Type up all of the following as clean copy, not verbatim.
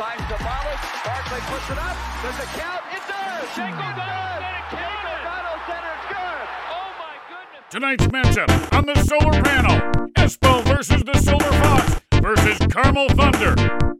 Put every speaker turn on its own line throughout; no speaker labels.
finds Sabalas. Barkley puts it up. Does it count? It does. Shango does. O'Donnell centers good. Oh my goodness.
Tonight's matchup on the solar panel: Espo versus the Silver Fox versus Carmel Thunder.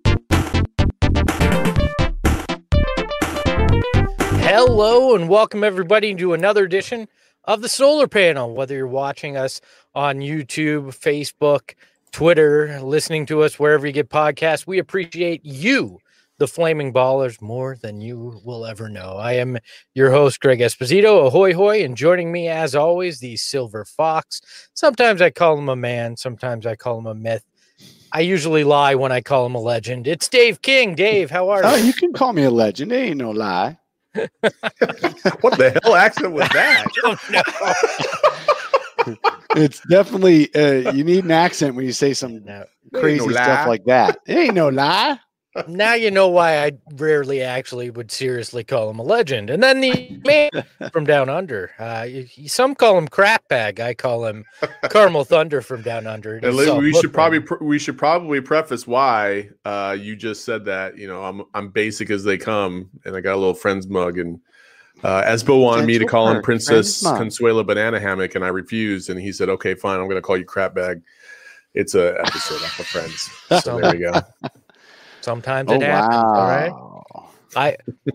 Hello and welcome everybody to another edition of the Solar Panel. Whether you're watching us on YouTube, Facebook, Twitter, listening to us wherever you get podcasts, we appreciate you, the Flaming Ballers, more than you will ever know. I am your host, Greg Esposito. Ahoy hoy, and joining me as always, the Silver Fox. Sometimes I call him a man, sometimes I call him a myth. I usually lie when I call him a legend. It's Dave King. Dave, how are you?
Oh, you can call me a legend. It ain't no lie.
What the hell accent was that?
It's definitely you need an accent when you say some crazy stuff like that. It ain't no lie.
Now you know why I rarely actually would seriously call him a legend. And then the man from down under. Some call him crap bag. I call him Carmel Thunder from down under.
We should probably preface why you just said that. You know, I'm basic as they come, and I got a little friend's mug, and Espo wanted me to call him Princess Consuela Banana Hammock, and I refused, and he said, "Okay, fine, I'm going to call you crap bag." It's a episode off of Friends, so there we go.
Sometimes it happens.
Wow.
All right.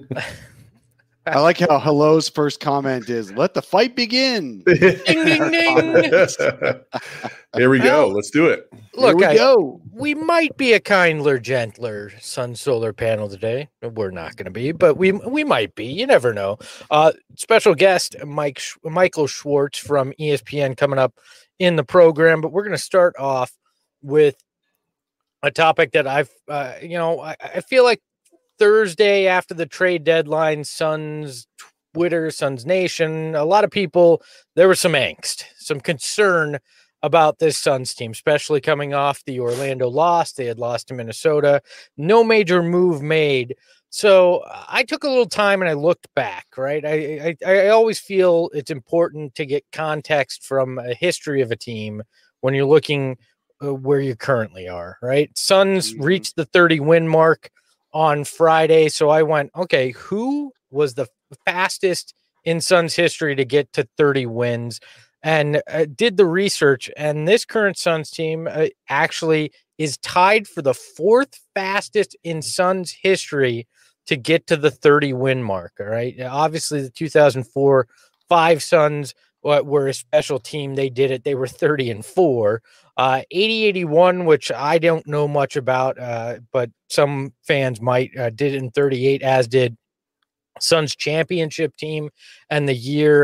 I like how Hello's first comment is, "Let the fight begin."
Ding, ding, ding.
Here we go. Let's do it.
Look,
go.
We might be a kinder, gentler Sun Solar Panel today. We're not going to be, but we might be. You never know. Special guest Michael Schwartz from ESPN coming up in the program, but we're going to start off with a topic that I feel like Thursday after the trade deadline, Suns Twitter, Suns Nation, a lot of people, there was some angst, some concern about this Suns team, especially coming off the Orlando loss. They had lost to Minnesota, no major move made. So I took a little time and I looked back, right? I always feel it's important to get context from a history of a team when you're looking where you currently are, right? Suns reached the 30 win mark on Friday. So I went, okay, who was the fastest in Suns history to get to 30 wins? And did the research, and this current Suns team actually is tied for the fourth fastest in Suns history to get to the 30 win mark. All right. Obviously the 2004-5 Suns were a special team. They did it. They were 30-4. 80-81, which I don't know much about, but some fans might, did it in 38, as did Suns championship team, and the year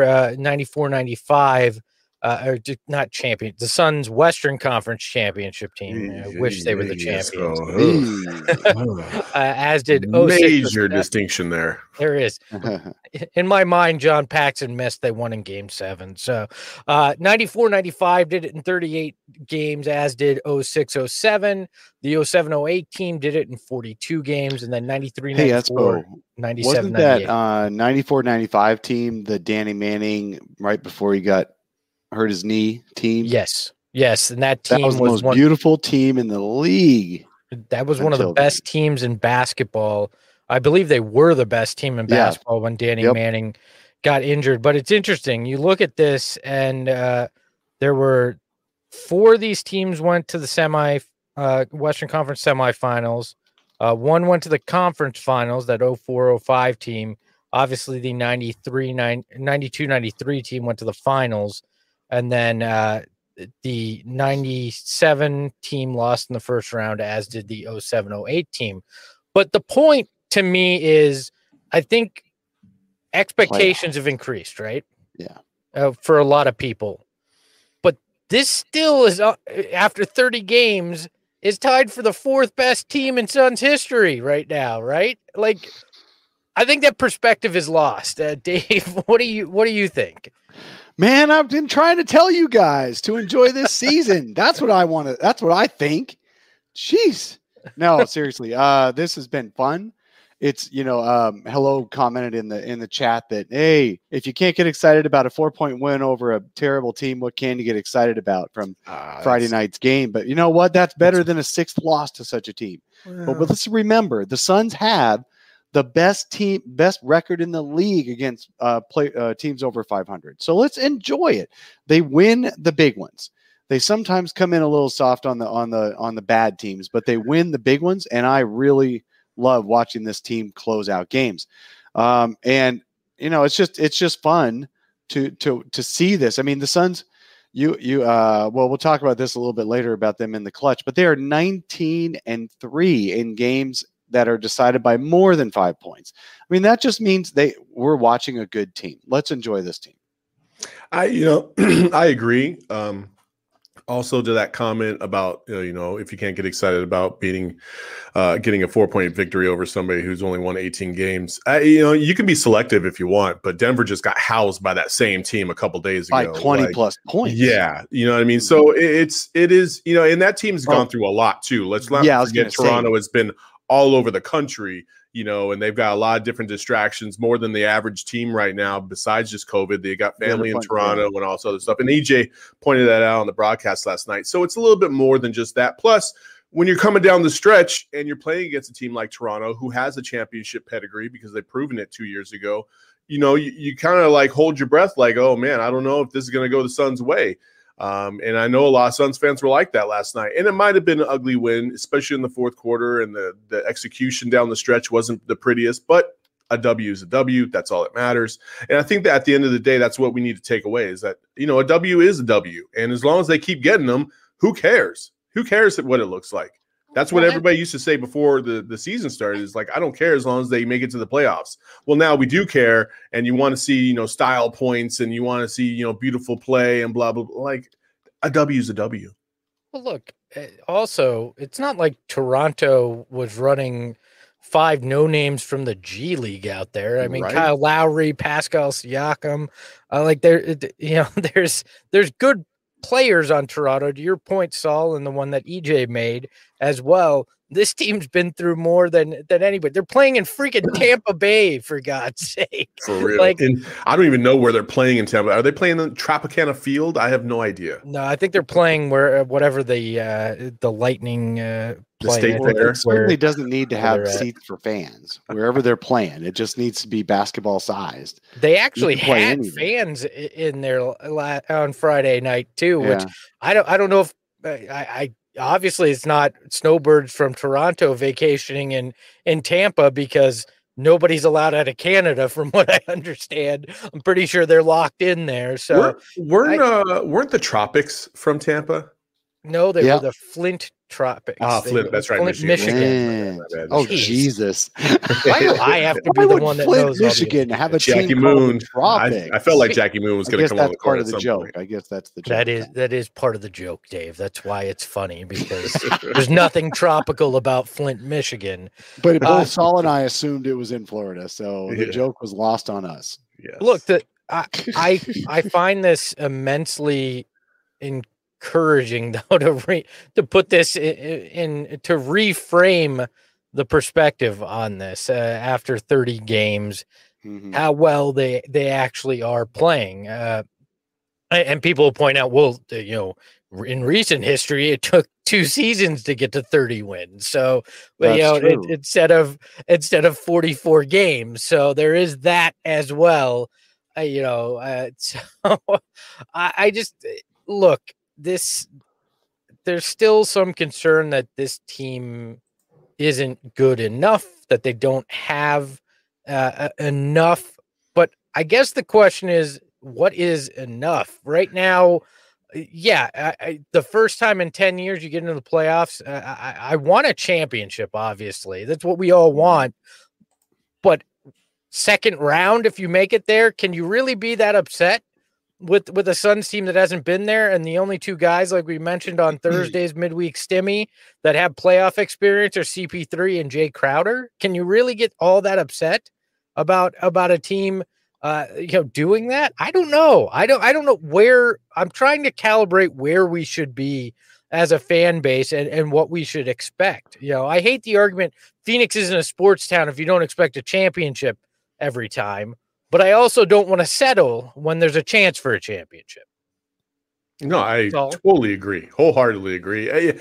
94-95, or not champion, the Suns Western Conference championship team. I wish they were the champions. As did
major distinction there.
There is. In my mind, John Paxson missed. They won in Game 7. So 94-95 did it in 38 games, as did 06-07. The 07-08 team did it in 42 games, and then 93-94, 97-98.
Wasn't that 94-95 team the Danny Manning right before he got hurt his knee team?
Yes. And that team
was the most beautiful team in the league.
That was one of the best teams in basketball. I believe they were the best team in basketball when Danny Manning got injured. But it's interesting. You look at this, and there were 4 of these teams went to the Western Conference semifinals. One went to the conference finals, that 04-05 team. Obviously, the 92-93 team went to the finals. And then the 97 team lost in the first round, as did the 07-08 team. But the point to me is, I think expectations have increased, right?
Yeah.
For a lot of people. But this still is, after 30 games, is tied for the 4th best team in Suns history right now, right? Like, I think that perspective is lost. Dave, what do you think?
Man, I've been trying to tell you guys to enjoy this season. That's what I want to. That's what I think. Jeez. No, seriously. This has been fun. it's Hello commented in the chat that, hey, if you can't get excited about a 4-point win over a terrible team, what can you get excited about from Friday night's game? But you know what? That's better than a 6th loss to such a team. But let's remember, the Suns have the best record in the league against teams over 500. So let's enjoy it. They win the big ones. They sometimes come in a little soft on the bad teams, but they win the big ones, and I really love watching this team close out games. And it's just fun to see this. I mean, the Suns, we'll talk about this a little bit later about them in the clutch, but they are 19-3 in games that are decided by more than 5 points. I mean, that just means we're watching a good team. Let's enjoy this team.
I agree. Also to that comment about, if you can't get excited about getting a 4-point victory over somebody who's only won 18 games, you can be selective if you want, but Denver just got housed by that same team a couple days ago.
By 20 plus points.
Yeah. You know what I mean? So it is, and that team's gone through a lot too. Let's not forget Toronto has been all over the country, and they've got a lot of different distractions, more than the average team right now, besides just COVID. They got family in Toronto and all this other stuff. And EJ pointed that out on the broadcast last night. So it's a little bit more than just that. Plus, when you're coming down the stretch and you're playing against a team like Toronto, who has a championship pedigree because they've proven it 2 years ago, you kind of like hold your breath like, oh, man, I don't know if this is going to go the Suns' way. And I know a lot of Suns fans were like that last night. And it might have been an ugly win, especially in the fourth quarter, and the execution down the stretch wasn't the prettiest, but a W is a W. That's all that matters. And I think that at the end of the day, that's what we need to take away is that, a W is a W. And as long as they keep getting them, who cares? Who cares what it looks like? That's what everybody used to say before the season started is like, I don't care as long as they make it to the playoffs. Well, now we do care, and you want to see, style points, and you want to see, beautiful play and blah, blah, blah. Like a W is a W.
Well, look, also, it's not like Toronto was running 5 no-names from the G League out there. I mean, right. Kyle Lowry, Pascal Siakam, there's good players on Toronto, to your point, Saul, and the one that EJ made as well. This team's been through more than anybody. They're playing in freaking Tampa Bay, for God's sake.
For real. And I don't even know where they're playing in Tampa. Are they playing in Tropicana Field? I have no idea.
No, I think they're playing whatever the Lightning
the state fair.
It certainly doesn't need to have seats for fans wherever they're playing. It just needs to be basketball sized.
They actually had fans in there on Friday night too, which I don't know if I obviously it's not snowbirds from Toronto vacationing in Tampa because nobody's allowed out of Canada from what I understand. I'm pretty sure they're locked in there. So
weren't the Tropics from Tampa?
No, they were the Flint Tropics.
Flint, that's right.
Flint, Michigan.
Oh, Jesus.
Why do I have to be the one that knows
Michigan have a
Jackie Moon. I felt like Jackie Moon was going to come on the court.
Part of the joke. I guess that's the joke.
That is part of the joke, Dave. That's why it's funny, because there's nothing tropical about Flint, Michigan.
But both Saul and I assumed it was in Florida, so the joke was lost on us.
Yes.
Look, I find this immensely encouraging, though, to put this in to reframe the perspective on this after 30 games, how well they actually are playing. And people will point out, well, in recent history, it took 2 seasons to get to 30 wins. So, instead of 44 games, so there is that as well. So I just look. There's still some concern that this team isn't good enough, that they don't have enough. But I guess the question is, what is enough right now? The first time in 10 years you get into the playoffs, I want a championship. Obviously, that's what we all want. But second round, if you make it there, can you really be that upset with a Suns team that hasn't been there? And the only 2 guys, like we mentioned on Thursday's midweek stimmy, that have playoff experience are CP3 and Jay Crowder. Can you really get all that upset about a team doing that? I don't know. I don't know where. I'm trying to calibrate where we should be as a fan base and what we should expect. You know, I hate the argument Phoenix isn't a sports town if you don't expect a championship every time, but I also don't want to settle when there's a chance for a championship.
No, I totally agree. Wholeheartedly agree.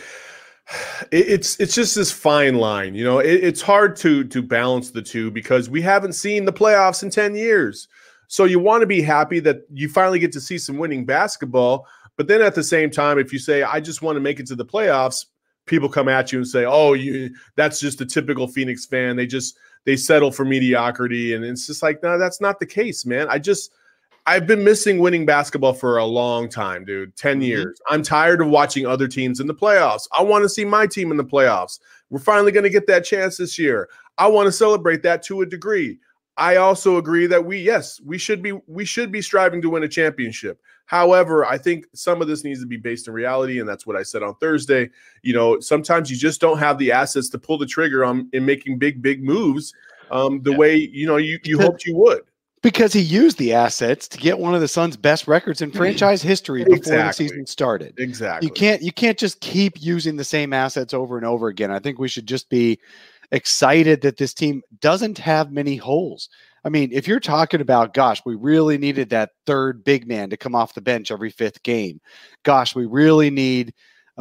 It's just this fine line, you know. It's hard to balance the two because we haven't seen the playoffs in 10 years. So you want to be happy that you finally get to see some winning basketball, but then at the same time, if you say I just want to make it to the playoffs, people come at you and say, "Oh, that's just a typical Phoenix fan. They settle for mediocrity," and it's just like, no, that's not the case, man. I've been missing winning basketball for a long time, dude. 10 years. I'm tired of watching other teams in the playoffs. I want to see my team in the playoffs. We're finally going to get that chance this year. I want to celebrate that to a degree. I also agree that we should be striving to win a championship. However, I think some of this needs to be based in reality, and that's what I said on Thursday. You know, sometimes you just don't have the assets to pull the trigger in making big moves the way you hoped you would.
Because he used the assets to get one of the Suns' best records in franchise history before the season started.
Exactly.
You can't just keep using the same assets over and over again. I think we should just be excited that this team doesn't have many holes. I mean, if you're talking about, gosh, we really needed that third big man to come off the bench every fifth game. Gosh, we really need,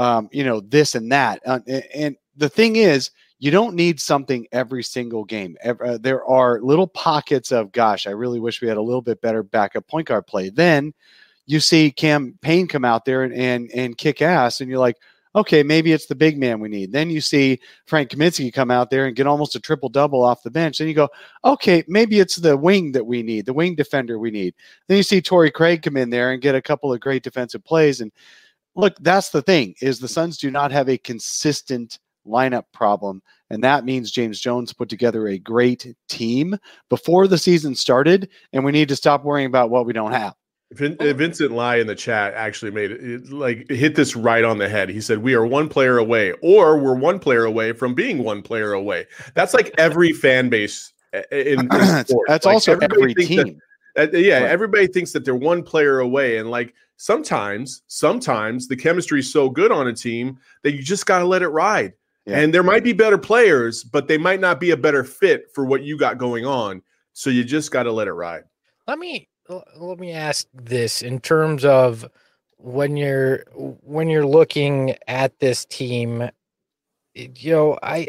this and that. And the thing is, you don't need something every single game. There are little pockets of, gosh, I really wish we had a little bit better backup point guard play. Then you see Cam Payne come out there and kick ass, and you're like, okay, maybe it's the big man we need. Then you see Frank Kaminsky come out there and get almost a triple-double off the bench. Then you go, okay, maybe it's the wing that we need, the wing defender we need. Then you see Torrey Craig come in there and get a couple of great defensive plays. And look, that's the thing, is the Suns do not have a consistent lineup problem, and that means James Jones put together a great team before the season started, and we need to stop worrying about what we don't have.
Vincent Lai in the chat actually made it hit this right on the head. He said, we are one player away, or we're one player away from being one player away. That's like every fan base in sports.
That's like also every team.
Right. Everybody thinks that they're one player away. And like sometimes the chemistry is so good on a team that you just got to let it ride. Yeah. And there might be better players, but they might not be a better fit for what you got going on. So you just got to let it ride.
Let me ask this in terms of when you're looking at this team, you know, I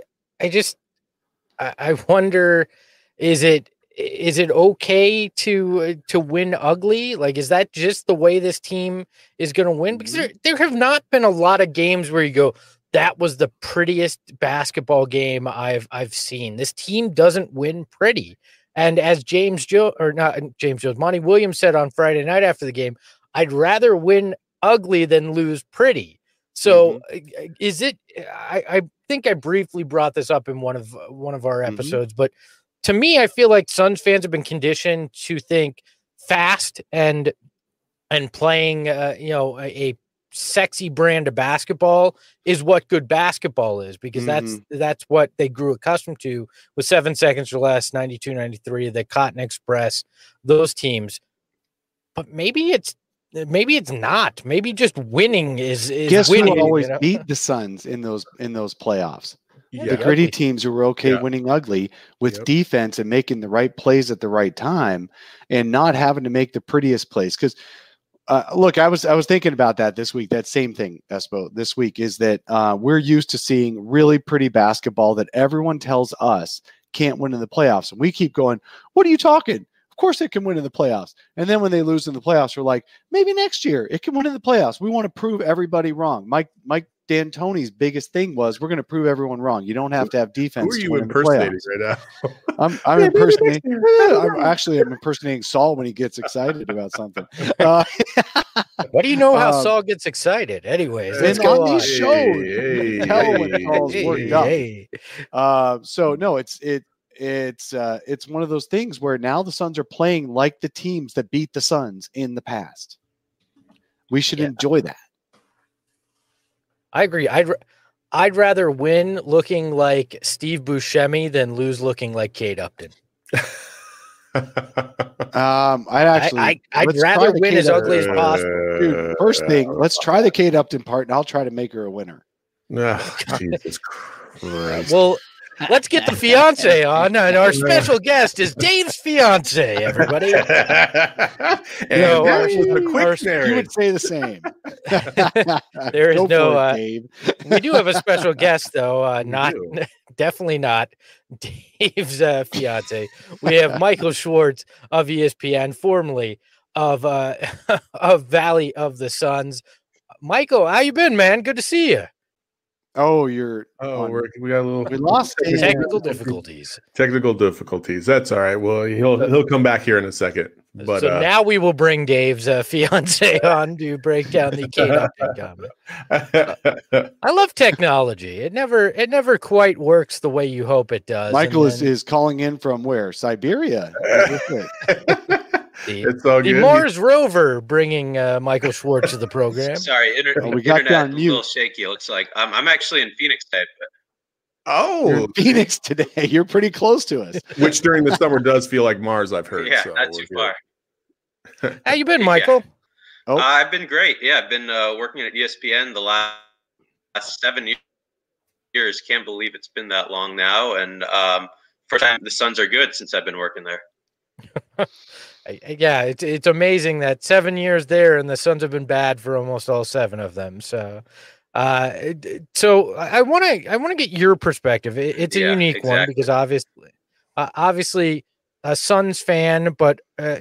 wonder, is it okay to win ugly? Like, is that just the way this team is going to win? Because there have not been a lot of games where you go, that was the prettiest basketball game I've seen. This team doesn't win pretty. And as Monty Williams said on Friday night after the game, I'd rather win ugly than lose pretty. So is it, I think I briefly brought this up in one of our episodes, but to me, I feel like Suns fans have been conditioned to think fast and playing, a sexy brand of basketball is what good basketball is, because that's what they grew accustomed to with 7 seconds or less, 92, 93, the Cotton Express, those teams. But maybe it's not. Maybe just winning is
Guess
winning.
Who always beat the Suns in those playoffs? The gritty teams who were okay winning ugly with defense and making the right plays at the right time and not having to make the prettiest plays. Because look, I was thinking about that this week. That same thing, Espo, this week is that we're used to seeing really pretty basketball that everyone tells us can't win in the playoffs. And we keep going, what are you talking? Of course it can win in the playoffs. And then when they lose in the playoffs, we're like, maybe next year it can win in the playoffs. We want to prove everybody wrong. Mike D'Antoni's biggest thing was, we're going to prove everyone wrong. You don't have to have defense.
Who are you impersonating right now?
I'm impersonating. I'm impersonating Saul when he gets excited about something.
What do you know how Saul gets excited? Anyways, let's
go
on
these shows. Tell when Saul's worked up. So no, it's one of those things where now the Suns are playing like the teams that beat the Suns in the past. We should enjoy that.
I agree. I'd rather win looking like Steve Buscemi than lose looking like Kate Upton.
I'd rather win as ugly as possible. Dude, first thing, let's try the Kate Upton part, and I'll try to make her a winner.
Jesus Christ.
Well, let's get the fiance on, and our special guest is Dave's fiance. Everybody,
you would say the same.
There is no.
Dave.
We do have a special guest, though. Definitely not Dave's fiance. We have Michael Schwartz of ESPN, formerly of Valley of the Suns. Michael, how you been, man? Good to see you.
Oh,
we got a little.
We lost
technical difficulties.
Technical difficulties. That's all right. Well, he'll come back here in a second. But
so now we will bring Dave's fiance on to break down the Kate Upton comment. I love technology. It never quite works the way you hope it does.
Michael is calling in from where? Siberia.
It's all
the
good.
Mars rover bringing Michael Schwartz to the program.
Sorry,
we got
internet
on
a
mute.
little shaky. It looks like I'm actually in Phoenix today.
You're in Phoenix today. You're pretty close to us.
Which during the summer does feel like Mars, I've heard.
Yeah,
so
not too far.
How you been, Michael?
Oh.
I've been great. Yeah, I've been working at ESPN the last 7 years. Can't believe it's been that long now. And first time the Suns are good since I've been working there.
Yeah, it's amazing that 7 years there, and the Suns have been bad for almost all 7 of them. So, I want to get your perspective. It's a unique one because obviously a Suns fan, but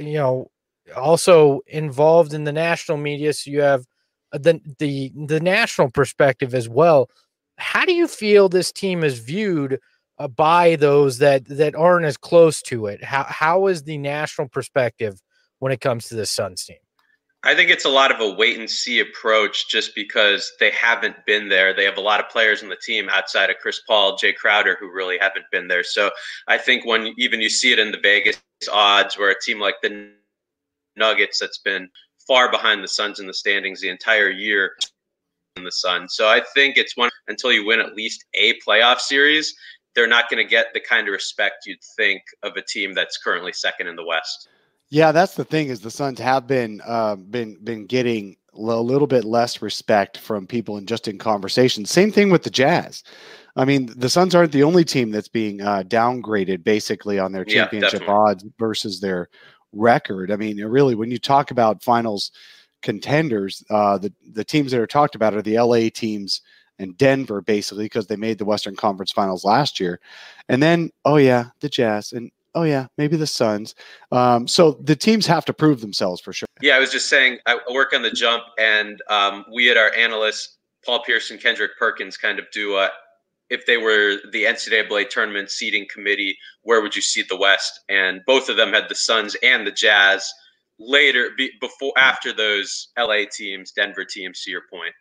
also involved in the national media. So you have the national perspective as well. How do you feel this team is viewed by those that aren't as close to it? How is the national perspective when it comes to the Suns team?
I think it's a lot of a wait and see approach just because they haven't been there. They have a lot of players on the team outside of Chris Paul, Jay Crowder, who really haven't been there. So I think when even you see it in the Vegas odds where a team like the Nuggets that's been far behind the Suns in the standings the entire year in the Suns. So I think it's one until you win at least a playoff series, they're not going to get the kind of respect you'd think of a team that's currently second in the West.
Yeah, that's the thing is the Suns have been getting a little bit less respect from people in conversation. Same thing with the Jazz. I mean, the Suns aren't the only team that's being downgraded basically on their championship odds versus their record. I mean, really, when you talk about finals contenders, the teams that are talked about are the LA teams and Denver, basically, because they made the Western Conference Finals last year. And then, the Jazz, and maybe the Suns. So the teams have to prove themselves for sure.
Yeah, I was just saying, I work on The Jump, and we had our analysts, Paul Pierce and Kendrick Perkins, kind of do if they were the NCAA tournament seeding committee, where would you seed the West? And both of them had the Suns and the Jazz after those LA teams, Denver teams, to your point.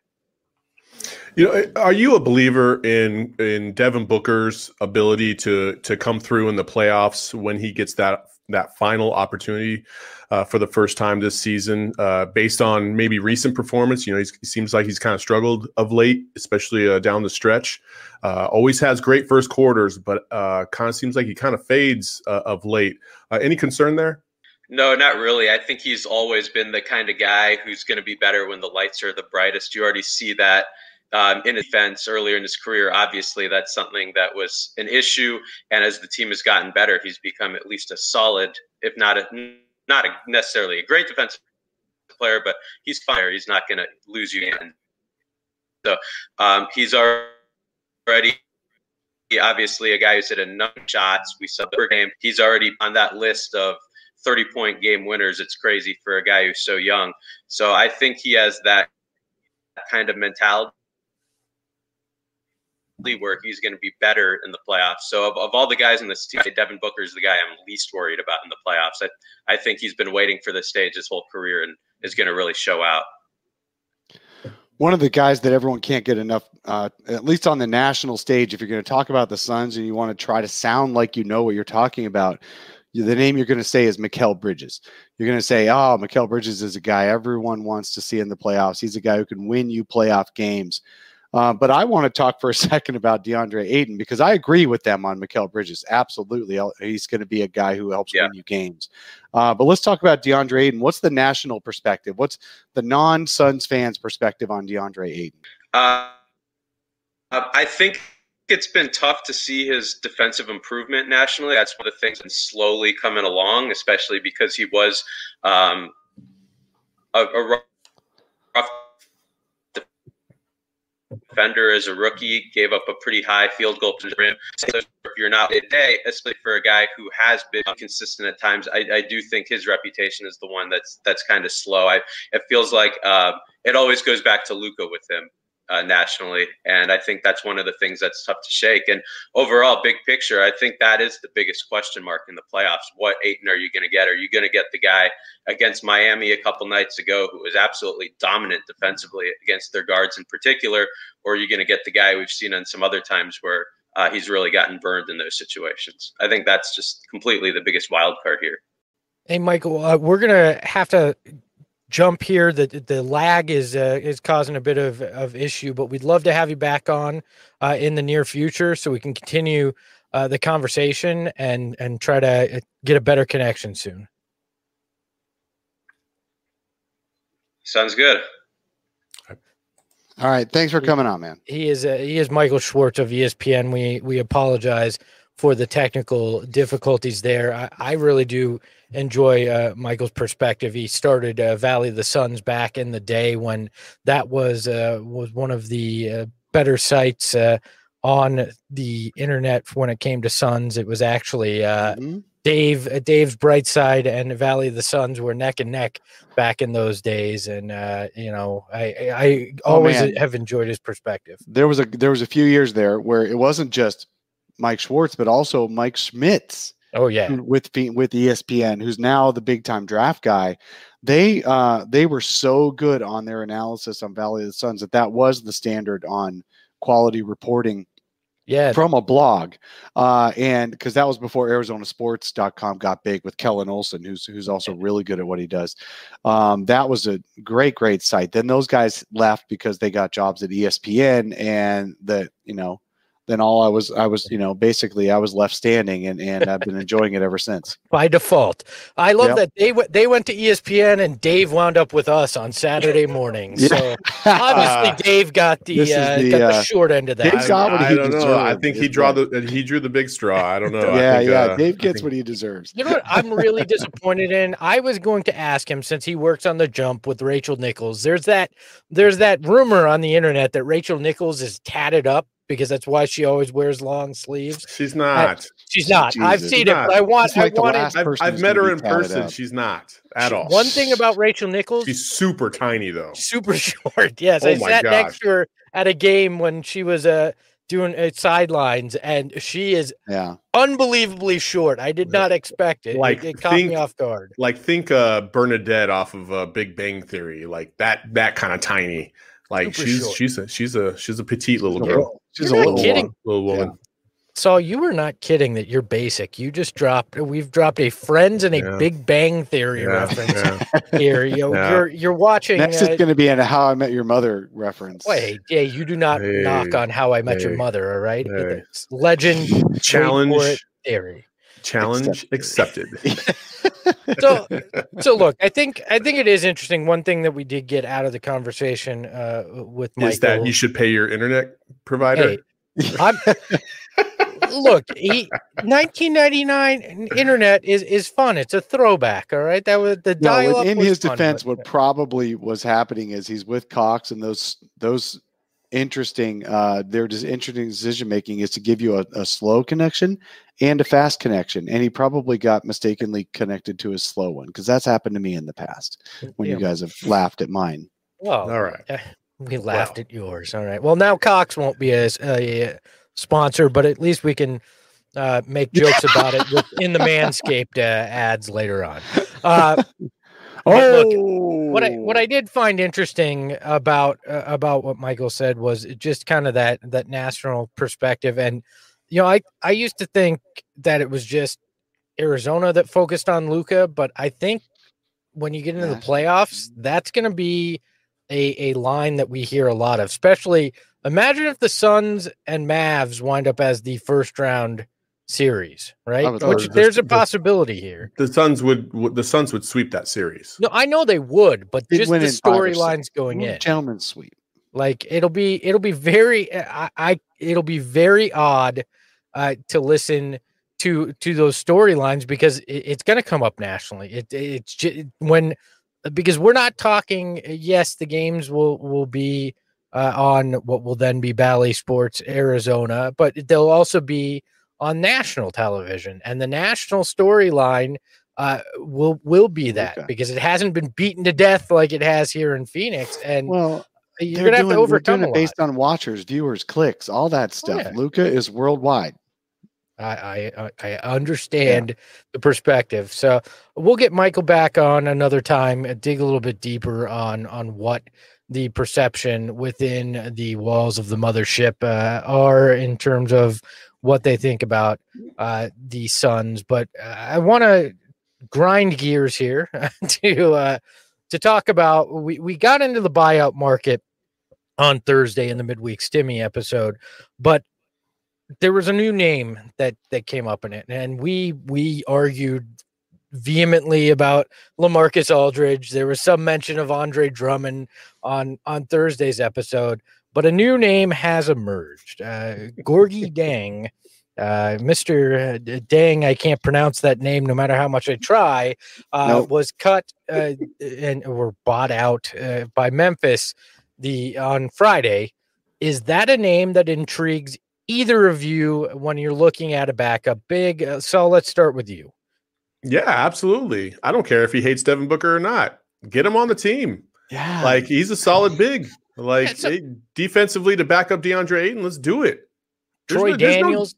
Are you a believer in Devin Booker's ability to come through in the playoffs when he gets that final opportunity for the first time this season, based on maybe recent performance? He seems like he's kind of struggled of late, especially down the stretch. Always has great first quarters, but kind of seems like he kind of fades of late. Any concern there?
No, not really. I think he's always been the kind of guy who's going to be better when the lights are the brightest. You already see that in defense earlier in his career. Obviously, that's something that was an issue. And as the team has gotten better, he's become at least a solid, if not necessarily a great defensive player, but he's fire. He's not going to lose you in. So he's already obviously a guy who's hit a number of shots. We saw per game. He's already on that list of 30-point game winners. It's crazy for a guy who's so young. So I think he has that kind of mentality where he's going to be better in the playoffs. So of all the guys in this team, Devin Booker is the guy I'm least worried about in the playoffs. I think he's been waiting for this stage his whole career and is going to really show out.
One of the guys that everyone can't get enough, at least on the national stage, if you're going to talk about the Suns and you want to try to sound like you know what you're talking about, the name you're going to say is Mikal Bridges. You're going to say, Mikal Bridges is a guy everyone wants to see in the playoffs. He's a guy who can win you playoff games. But I want to talk for a second about DeAndre Ayton because I agree with them on Mikal Bridges. Absolutely. He's going to be a guy who helps win you games. But let's talk about DeAndre Ayton. What's the national perspective? What's the non-Suns fans' perspective on DeAndre Ayton?
I think it's been tough to see his defensive improvement nationally. That's one of the things that's slowly coming along, especially because he was a rough defender as a rookie, gave up a pretty high field goal percentage. So if you're not today, especially for a guy who has been consistent at times, I do think his reputation is the one that's kind of slow. It feels like it always goes back to Luka with him. Nationally, and I think that's one of the things that's tough to shake. And overall, big picture, I think that is the biggest question mark in the playoffs. What Ayton are you going to get? Are you going to get the guy against Miami a couple nights ago who was absolutely dominant defensively against their guards in particular, or are you going to get the guy we've seen on some other times where he's really gotten burned in those situations? I think that's just completely the biggest wild card here.
Hey, Michael, we're going to have to jump here. The lag is causing a bit of issue, but we'd love to have you back on in the near future so we can continue the conversation and try to get a better connection soon.
Sounds good.
All right, thanks for coming on, man.
He is Michael Schwartz of ESPN. We apologize for the technical difficulties there. I really do enjoy Michael's perspective. He started Valley of the Suns back in the day when that was one of the better sites on the internet when it came to Suns. It was actually Dave's Bright Side and Valley of the Suns were neck and neck back in those days, and I always have enjoyed his perspective.
There was a few years there where it wasn't just Mike Schwartz, but also Mike Schmitz.
Oh yeah,
with ESPN, who's now the big time draft guy. They were so good on their analysis on Valley of the Suns that was the standard on quality reporting.
Yeah, from
a blog, and because that was before ArizonaSports.com got big with Kellen Olson, who's also really good at what he does. That was a great site. Then those guys left because they got jobs at ESPN, and then all I was basically I was left standing, and I've been enjoying it ever since.
By default. I love that they went to ESPN and Dave wound up with us on Saturday morning. So obviously Dave got the short end of that.
I don't know. I think he drew the big straw. I don't know.
Dave gets what he deserves.
You know what I'm really disappointed in? I was going to ask him, since he works on The Jump with Rachel Nichols. There's that rumor on the internet that Rachel Nichols is tatted up, because that's why she always wears long sleeves.
She's not.
She's not. Jesus, I've seen it, but
I've met her in person. She's not at all.
One thing about Rachel Nichols,
she's super tiny though.
Super short. Yes, I sat next to her at a game when she was doing sidelines, and she is unbelievably short. I did not expect it. It caught me off guard.
Think Bernadette off of Big Bang Theory, like that kind of tiny. Like she's a petite little girl.
She's a little
woman.
Yeah. So you were not kidding that you're basic. You just we've dropped a Friends and a Big Bang Theory reference here. You're watching.
Next is going to be a How I Met Your Mother reference.
Wait, you do not knock on How I Met Your Mother. All right, it's legend
challenge
theory.
Challenge accepted.
So look, I think it is interesting. One thing that we did get out of the conversation with Michael
is that you should pay your internet provider.
Look, 1999 internet is fun. It's a throwback. All right, that was the dial-up.
In his defense, what probably was happening is he's with Cox, and those interesting their interesting decision making is to give you a slow connection and a fast connection, and he probably got mistakenly connected to his slow one, because that's happened to me in the past when you guys have laughed at mine.
Well,
all right,
we laughed at yours. All right, well, now Cox won't be a sponsor, but at least we can make jokes about it in the Manscaped ads later on. Look, what I did find interesting about what Michael said was just kind of that national perspective. And I used to think that it was just Arizona that focused on Luka, but I think when you get into the playoffs, that's going to be a line that we hear a lot of, especially imagine if the Suns and Mavs wind up as the first round series, right? There's a possibility here.
The Suns would sweep that series.
No, I know they would, but just the storylines going in.
Gentlemen's sweep.
Like it'll be very it'll be very odd to listen to those storylines because it's going to come up nationally. It's just because we're not talking. Yes, the games will be on what will then be Bally Sports Arizona, but they'll also be on national television, and the national storyline will be that because it hasn't been beaten to death like it has here in Phoenix. And you're gonna have to overcome it
based on watchers, viewers, clicks, all that stuff. Oh, yeah. Luka is worldwide.
I understand the perspective. So we'll get Michael back on another time and dig a little bit deeper on what the perception within the walls of the mothership are in terms of what they think about the Suns. But I want to grind gears here to talk about, we got into the buyout market on Thursday in the midweek Stimmy episode, but there was a new name that came up in it, and we argued vehemently about LaMarcus Aldridge. There was some mention of Andre Drummond on Thursday's episode, but a new name has emerged. Gorgui Dieng, Mr. Dang, I can't pronounce that name no matter how much I try, was cut and were bought out by Memphis on Friday. Is that a name that intrigues either of you when you're looking at a backup big? So let's start with you.
Yeah, absolutely. I don't care if he hates Devin Booker or not. Get him on the team.
Yeah.
Like, he's a solid big. Like, defensively to back up DeAndre Ayton, let's do it.
Troy Daniels.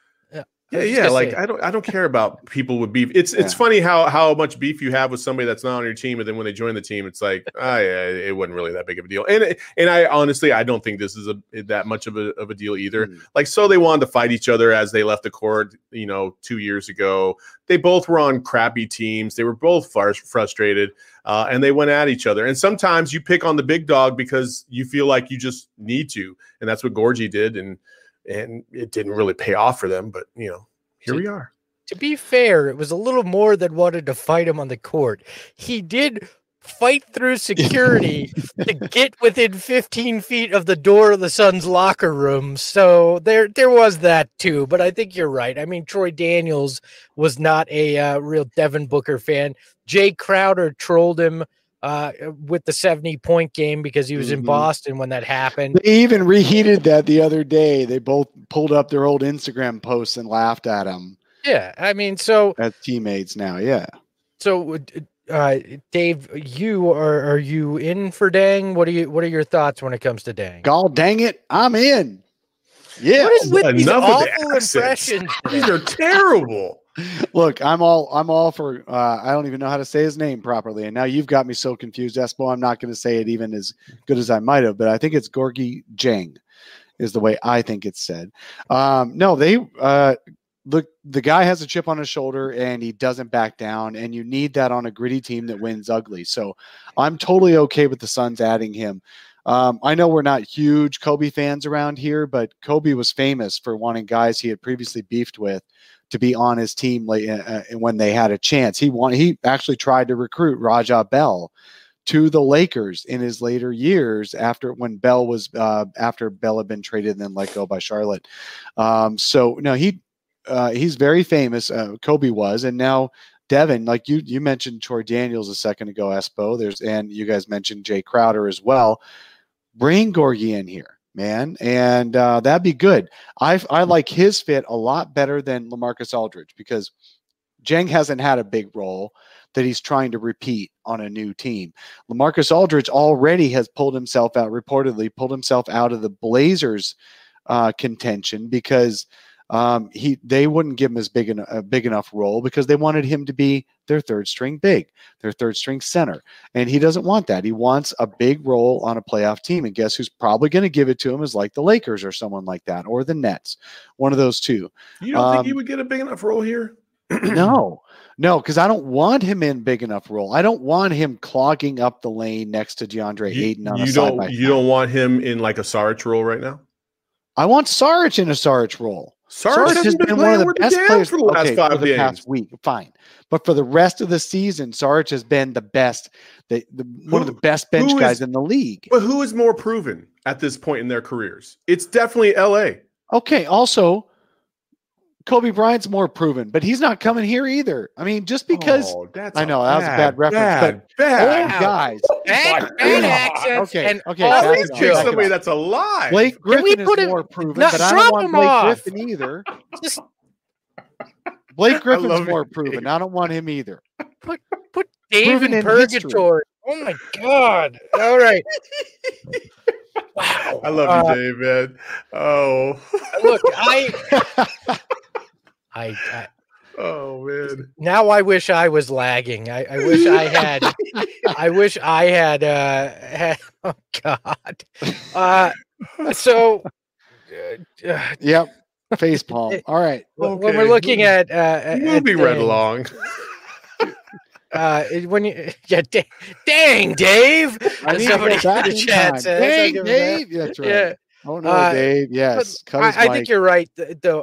Like, I don't care about people with beef. It's funny how much beef you have with somebody that's not on your team, and then when they join the team, it's like, it wasn't really that big of a deal. And I honestly, I don't think this is that much of a deal either. Like, so they wanted to fight each other as they left the court, 2 years ago. They both were on crappy teams. They were both frustrated, and they went at each other. And sometimes you pick on the big dog because you feel like you just need to, and that's what Gorgui did. And it didn't really pay off for them, but here we are.
To be fair, it was a little more than wanted to fight him on the court. He did fight through security to get within 15 feet of the door of the Suns locker room. So there was that too, but I think you're right. I mean, Troy Daniels was not a real Devin Booker fan. Jay Crowder trolled him with the 70-point game because he was in Boston when that happened.
They even reheated that the other day. They both pulled up their old Instagram posts and laughed at him.
Yeah, I mean, so
as teammates now, yeah.
So, Dave, are you in for Dang? What are your thoughts when it comes to Dang?
God dang it, I'm in. Yeah,
what is with these awful impressions?
These are terrible.
Look, I'm all for. I don't even know how to say his name properly, and now you've got me so confused, Espo. I'm not going to say it even as good as I might have, but I think it's Gorgui Dieng, is the way I think it's said. No, they look. The guy has a chip on his shoulder, and he doesn't back down. And you need that on a gritty team that wins ugly. So, I'm totally okay with the Suns adding him. I know we're not huge Kobe fans around here, but Kobe was famous for wanting guys he had previously beefed with to be on his team when they had a chance. He actually tried to recruit Raja Bell to the Lakers in his later years after Bell had been traded and then let go by Charlotte. So no, he's very famous. Kobe was, and now Devin, like you mentioned Troy Daniels a second ago, Espo. And you guys mentioned Jay Crowder as well. Bring Gorgui in here, man, and that'd be good. I like his fit a lot better than LaMarcus Aldridge because Dieng hasn't had a big role that he's trying to repeat on a new team. LaMarcus Aldridge already has reportedly pulled himself out of the Blazers contention because they wouldn't give him a big enough role because they wanted him to be their third string center. And he doesn't want that. He wants a big role on a playoff team. And guess who's probably going to give it to him is like the Lakers or someone like that, or the Nets, one of those two.
You don't think he would get a big enough role here?
No, because I don't want him in big enough role. I don't want him clogging up the lane next to DeAndre Ayton on a side-by-side.
You don't want him in like a Saric role right now?
I want Saric in a Saric role.
Saric has been one of the best players for the last 5 games.
Past week, fine. But for the rest of the season, Saric has been the best, one of the best bench guys in the league.
But who is more proven at this point in their careers? It's definitely LA.
Okay, also, Kobe Bryant's more proven, but he's not coming here either. I mean, just because I know that was a bad reference,
bad
guys.
Bad accents.
Okay.
Always pick somebody that's alive.
Blake Griffin is more proven, but I don't want Blake Griffin either. Blake Griffin's more proven. I don't want him either.
Put Dave in purgatory. Oh my God! All right. Wow.
I love you, Dave, man. Oh,
look,
oh man.
Now I wish I was lagging. I wish I had. I wish I had. Oh God. So.
Yep. Face palm. All right.
When we're looking at
moving right along.
When you dang Dave. Somebody in the chat says,
dang Dave. That's right. Yeah. Oh no, Dave. Yes.
I think you're right though.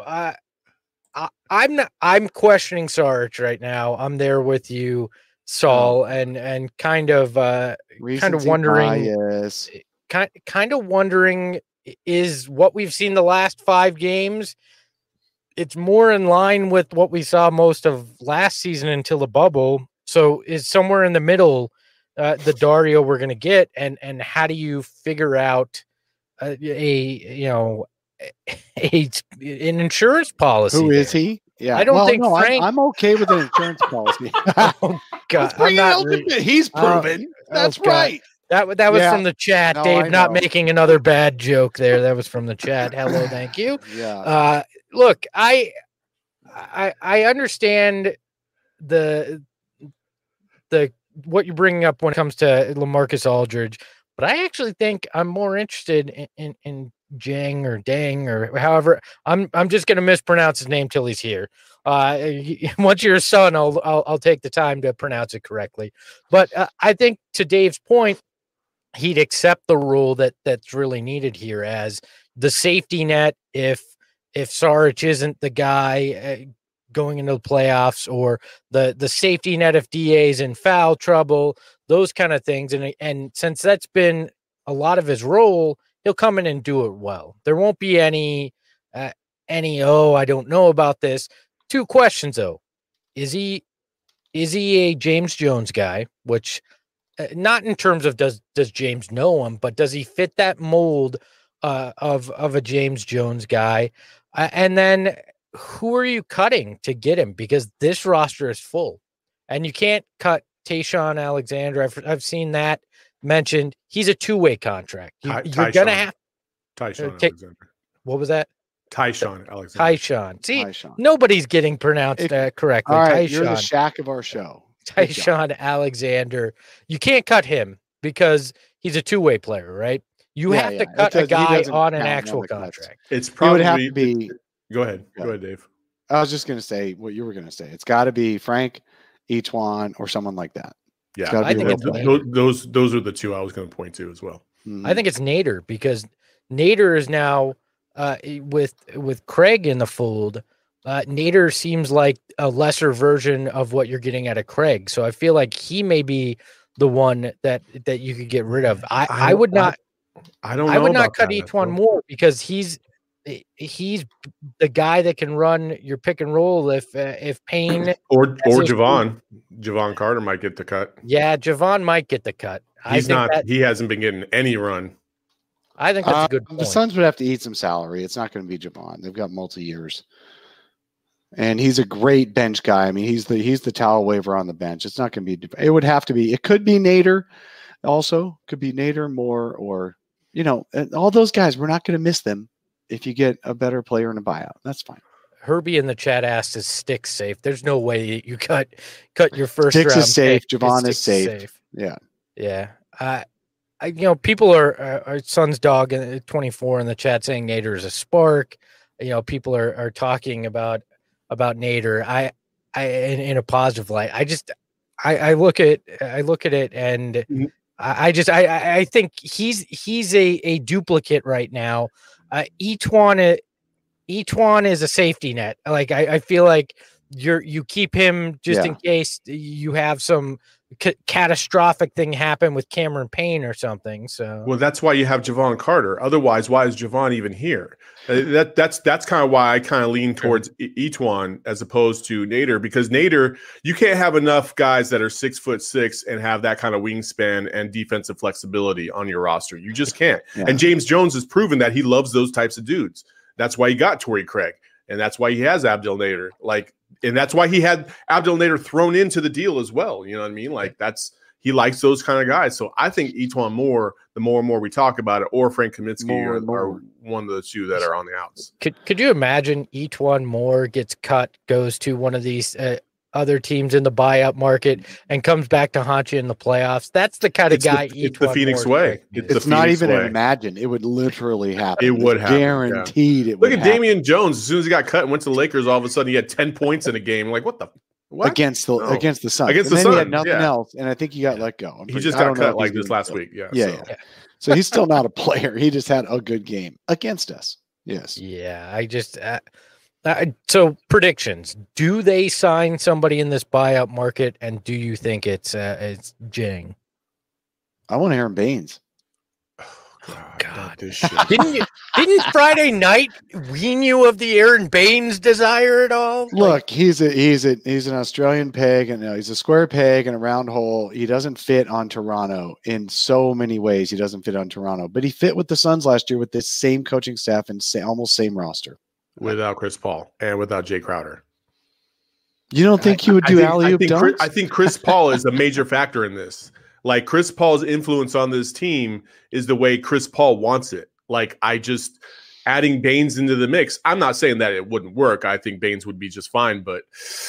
I'm questioning Sarge right now. I'm there with you, Saul, and kind of wondering kind of wondering, is what we've seen the last 5 games, it's more in line with what we saw most of last season until the bubble. So is somewhere in the middle the Dario we're going to get, and how do you figure out an insurance policy?
Who is he? Yeah,
I don't think Frank.
I'm okay with an insurance policy.
Oh God,
he's proven. That's right.
That was from the chat, no, Dave. Not making another bad joke there. That was from the chat. Hello, thank you.
Yeah.
Look, I understand the what you're bringing up when it comes to LaMarcus Aldridge, but I actually think I'm more interested in Jang or Dang or however. I'm just going to mispronounce his name till he's here. Once you're a son, I'll take the time to pronounce it correctly. But I think to Dave's point, he'd accept the rule that's really needed here as the safety net if Saric isn't the guy going into the playoffs, or the safety net if DA's in foul trouble, those kind of things. And since that's been a lot of his role, he'll come in and do it well. There won't be any I don't know about this. 2 questions though. Is he a James Jones guy, which not in terms of does James know him, but does he fit that mold of a James Jones guy? And then who are you cutting to get him? Because this roster is full, and you can't cut Tayshaun Alexander. I've seen that mentioned. He's a 2-way contract. You're gonna have
Tayshaun Alexander.
What was that?
Tayshaun Alexander.
Tayshaun. See, nobody's getting pronounced correctly.
All right, you're the Shaq of our show.
Tayshaun Alexander. You can't cut him because he's a 2-way player, right? You have to cut a guy on an actual contract.
It's probably
have to be.
Go ahead, Dave.
I was just going to say what you were going to say. It's got to be Frank, Etuan, or someone like that.
Yeah, I think those are the 2 I was going to point to as well.
Mm-hmm. I think it's Nader, because Nader is now with Craig in the fold. Nader seems like a lesser version of what you're getting out of Craig. So I feel like he may be the one that you could get rid of. I would not cut Etuan more, because he's the guy that can run your pick and roll if Payne
or Javon Carter might get the cut.
Yeah, Javon might get the cut.
He hasn't been getting any run.
I think that's a good point.
The Suns would have to eat some salary. It's not going to be Javon. They've got multi-years. And he's a great bench guy. I mean, he's the towel waver on the bench. It's not going to be. It would have to be. It could be Nader. Also, could be Nader more, or all those guys. We're not going to miss them if you get a better player in a buyout. That's fine.
Herbie in the chat asked, "Is Sticks safe?" There's no way you cut your first
Sticks
round.
Is safe. Javon is safe. Yeah.
People are Sun's dog 24 in the chat saying Nader is a spark. People are talking about Nader. in a positive light. I look at it and I think he's a duplicate right now. Etuan is a safety net. Like I feel like you keep him just in case you have some catastrophic thing happen with Cameron Payne or something. So
well, that's why you have Javon Carter. Otherwise, why is Javon even here? That's kind of why I kind of lean towards Etuan as opposed to Nader, because Nader, you can't have enough guys that are 6'6" and have that kind of wingspan and defensive flexibility on your roster. You just can't. Yeah. And James Jones has proven that he loves those types of dudes. That's why he got Torrey Craig, and that's why he has Abdel Nader. And that's why he had Abdel Nader thrown into the deal as well. You know what I mean? Like he likes those kind of guys. So I think Etuan Moore, the more and more we talk about it, or Frank Kaminsky are one of the two that are on the outs.
Could you imagine Etuan Moore gets cut, goes to one of these other teams in the buyout market, and comes back to haunt you in the playoffs? That's the kind of guy.
It's the Phoenix way.
It's not even an imagine. It would literally happen.
It would happen.
Guaranteed.
It would. Look at Damian Jones. As soon as he got cut and went to the Lakers, all of a sudden he had 10 points in a game. Like what?
Against the Suns.
Against the
Suns. He had nothing else, and I think he got let go.
He just got cut like this last week. Yeah.
So he's still not a player. He just had a good game against us. Yes.
Yeah. I just. So predictions: do they sign somebody in this buyout market, and do you think it's Jang?
I want Aaron Baines.
Oh, God, this shit. Didn't Friday night wean you of the Aaron Baines desire at all?
Look, he's an Australian peg, and he's a square peg in a round hole. He doesn't fit on Toronto in so many ways. He doesn't fit on Toronto, but he fit with the Suns last year with this same coaching staff and almost same roster.
Without Chris Paul and without Jay Crowder.
You don't think he would do alley-oop dunks?
I think Chris Paul is a major factor in this. Like Chris Paul's influence on this team is the way Chris Paul wants it. Like adding Baines into the mix. I'm not saying that it wouldn't work. I think Baines would be just fine, but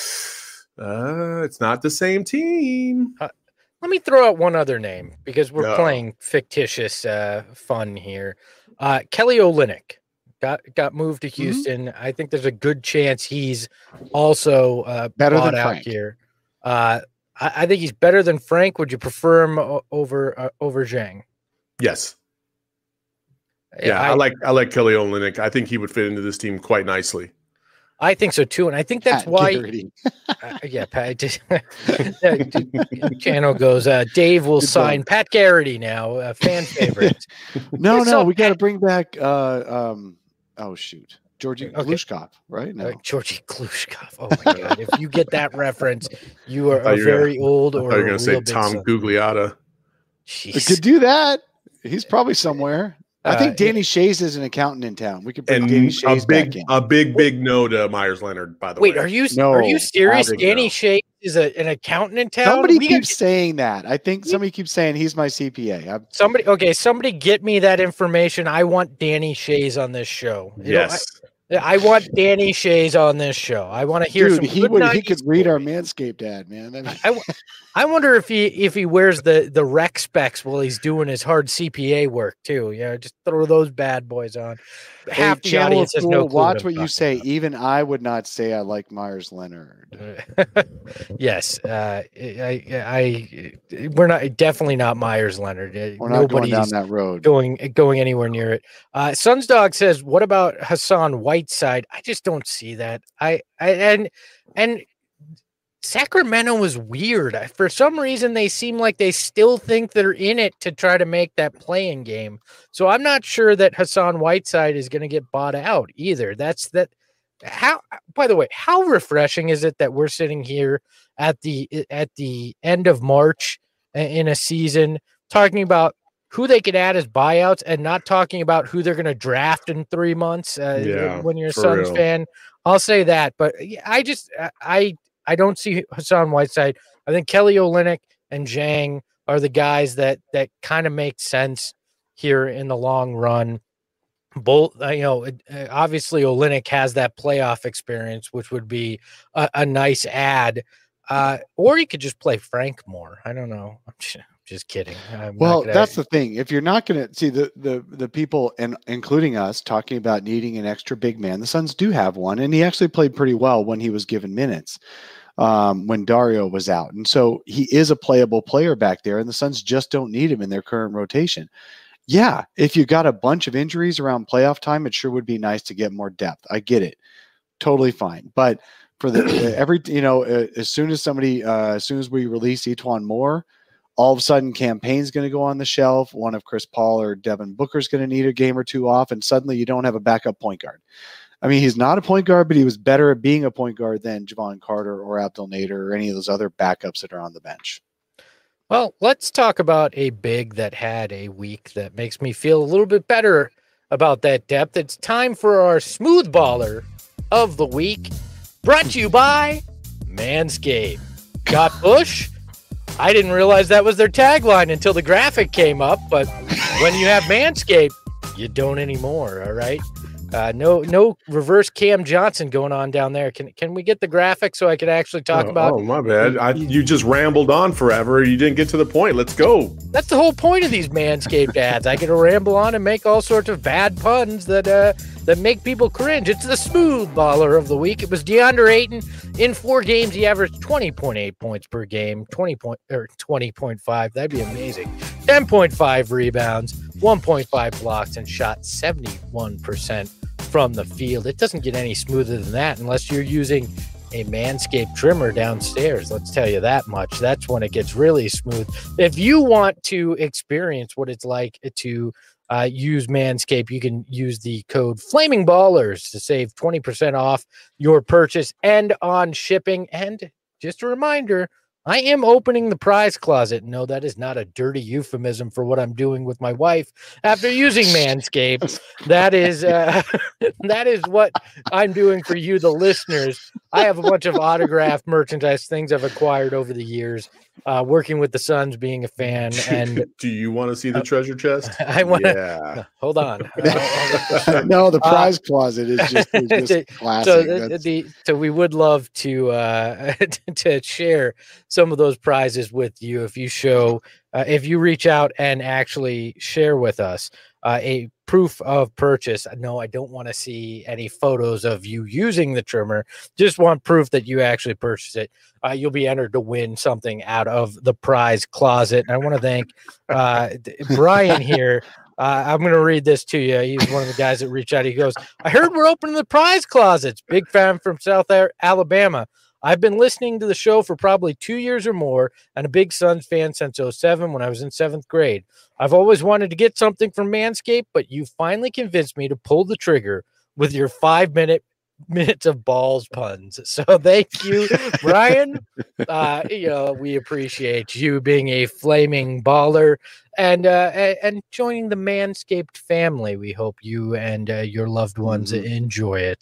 it's not the same team.
Let me throw out one other name because we're playing fictitious fun here. Kelly Olynyk. Got moved to Houston. I think there's a good chance he's also
better than
out
Frank
here. I think he's better than Frank. Would you prefer him over Zhang?
Yes. Yeah, I like Kelly Olynyk. I think he would fit into this team quite nicely.
I think so too, and I think that's why. Pat. Channel goes. Dave will sign Pat Garrity now, fan favorite.
No, we got to bring back. Georgi Glushkov, right? No,
Georgi Glushkov. Oh my God! If you get that reference, you are very old. Or
you're going to say Tom Gugliotta.
We could do that. He's probably somewhere. I think Danny Shays is an accountant in town. We could bring Danny Shays back in.
A big no to Myers Leonard, by the way.
Wait, are you serious? Danny Shays is an accountant in town?
Somebody keeps saying that. I think somebody keeps saying he's my CPA.
Somebody get me that information. I want Danny Shays on this show.
Yes.
I want Danny Shays on this show. I want to hear
he could read our Manscaped ad, man.
I wonder if he wears the rec specs while he's doing his hard CPA work too. Yeah, just throw those bad boys on. Half the audience has no clue.
Watch what you say. About. Even I would not say I like Myers Leonard.
Yes, we're definitely not Myers Leonard.
We're not going down that road.
Going anywhere near it. Suns Dog says, "What about Hassan Whiteside?" I just don't see that. And Sacramento was weird. For some reason, they seem like they still think they're in it to try to make that play-in game. So I'm not sure that Hassan Whiteside is going to get bought out either. By the way, how refreshing is it that we're sitting here at the end of March in a season talking about who they could add as buyouts and not talking about who they're going to draft in 3 months when you're a Suns fan. I'll say that. But I don't see Hassan Whiteside. I think Kelly Olynyk and Zhang are the guys that kind of make sense here in the long run. Both, obviously Olynyk has that playoff experience, which would be a nice add. Or you could just play Frank more. I don't know. I'm just kidding.
That's the thing. If you're not going to see the people, and including us, talking about needing an extra big man, the Suns do have one, and he actually played pretty well when he was given minutes. when Dario was out. And so he is a playable player back there, and the Suns just don't need him in their current rotation. Yeah, if you got a bunch of injuries around playoff time, it sure would be nice to get more depth. I get it. Totally fine. But for the as soon as we release Etuan Moore, all of a sudden campaign's going to go on the shelf. One of Chris Paul or Devin Booker's going to need a game or two off, and suddenly you don't have a backup point guard. I mean, he's not a point guard, but he was better at being a point guard than Javon Carter or Abdel Nader or any of those other backups that are on the bench.
Well, let's talk about a big that had a week that makes me feel a little bit better about that depth. It's time for our smooth baller of the week, brought to you by Manscaped. Got Bush? I didn't realize that was their tagline until the graphic came up, but when you have Manscaped, you don't anymore, all right? No reverse Cam Johnson going on down there. Can we get the graphic so I could actually talk about?
Oh, my bad. You just rambled on forever. You didn't get to the point. Let's go.
That's the whole point of these Manscaped ads. I get to ramble on and make all sorts of bad puns that make people cringe. It's the smooth baller of the week. It was DeAndre Ayton. In 4 games, he averaged 20.8 points per game, 20.5. That'd be amazing. 10.5 rebounds, 1.5 blocks, and shot 71% from the field. It doesn't get any smoother than that unless you're using a Manscaped trimmer downstairs. Let's tell you that much. That's when it gets really smooth. If you want to experience what it's like to use Manscaped, you can use the code Flaming Ballers to save 20% off your purchase and on shipping. And just a reminder, I am opening the prize closet. No, that is not a dirty euphemism for what I'm doing with my wife after using Manscaped. That is what I'm doing for you, the listeners. I have a bunch of autographed merchandise, things I've acquired over the years, working with the Suns, being a fan. And
do you want to see the treasure chest?
I want to. Yeah. Hold on.
No, the prize closet is just classic.
So we would love to share some of those prizes with you if you reach out and actually share with us a proof of purchase. No, I don't want to see any photos of you using the trimmer. Just want proof that you actually purchased it. You'll be entered to win something out of the prize closet. And I want to thank Brian here. I'm going to read this to you. He's one of the guys that reached out. He goes, I heard we're opening the prize closets. Big fan from South Alabama. I've been listening to the show for probably 2 years or more and a big Suns fan since 2007 when I was in 7th grade. I've always wanted to get something from Manscaped, but you finally convinced me to pull the trigger with your 5 minutes of balls puns. So thank you, Brian. We appreciate you being a flaming baller and joining the Manscaped family. We hope you and your loved ones enjoy it.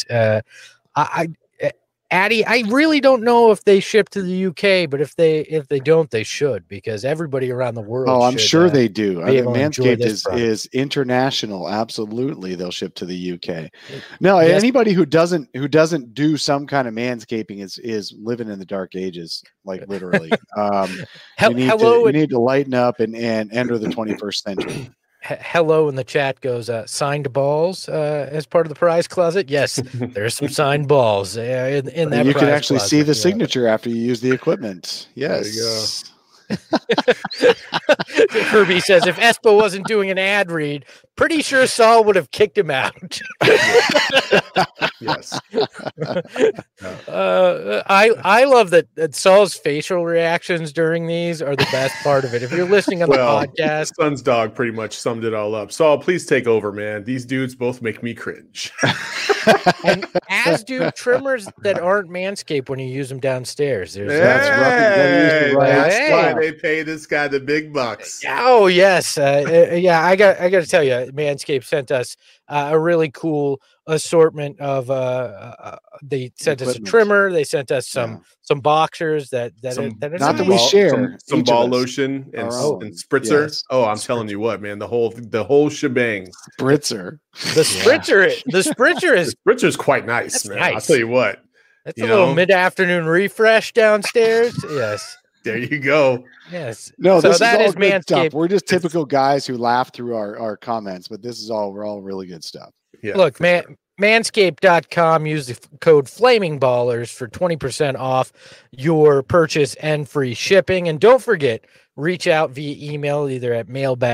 Addy, I really don't know if they ship to the UK, but if they don't, they should, because everybody around the world.
Oh, I'm sure they do. I mean, Manscaped is international. Absolutely, they'll ship to the UK. No, yes. Anybody who doesn't do some kind of manscaping is living in the dark ages, like literally. You need to lighten up and enter the 21st century.
Hello in the chat goes signed balls as part of the prize closet. Yes, there's some signed balls in that.
You can actually see the signature after you use the equipment. Yes.
There you go.
Kirby says if Espo wasn't doing an ad read, pretty sure Saul would have kicked him out.
Yes.
I love that Saul's facial reactions during these are the best part of it. If you're listening on the podcast,
Sun's dog pretty much summed it all up. Saul, please take over, man. These dudes both make me cringe.
And as do trimmers that aren't Manscaped when you use them downstairs.
That's why they pay this guy the big bucks.
Oh yes, I got to tell you, Manscaped sent us a really cool assortment of. They sent us a trimmer. They sent us some boxers that
we share
some ball lotion and spritzer. Yes. Oh, I'm telling you what, man, the whole shebang.
Spritzer.
The spritzer is
quite nice, man.
Nice.
I'll tell you what.
That's a little mid-afternoon refresh downstairs. Yes.
There you go.
Yes.
No, so that is good stuff. We're just typical guys who laugh through our comments, but we're all really good stuff.
Yeah. Look, Manscaped.com. Use the code FlamingBallers for 20% off your purchase and free shipping. And don't forget, reach out via email either at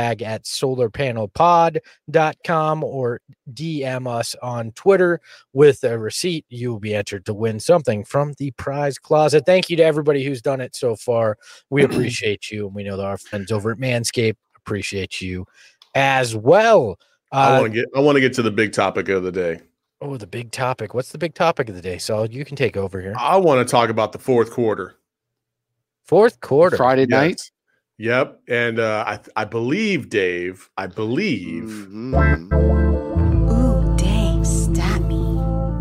mailbag@solarpanelpod.com or DM us on Twitter with a receipt. You will be entered to win something from the prize closet. Thank you to everybody who's done it so far. We appreciate you, and we know that our friends over at Manscaped appreciate you as well.
I want to get to the big topic of the day.
Oh, the big topic. What's the big topic of the day, Solid? You can take over here.
I want to talk about the fourth quarter.
Fourth quarter.
Friday night?
Yep. And I believe, Dave,
Mm-hmm.
Ooh, Dave, stop me.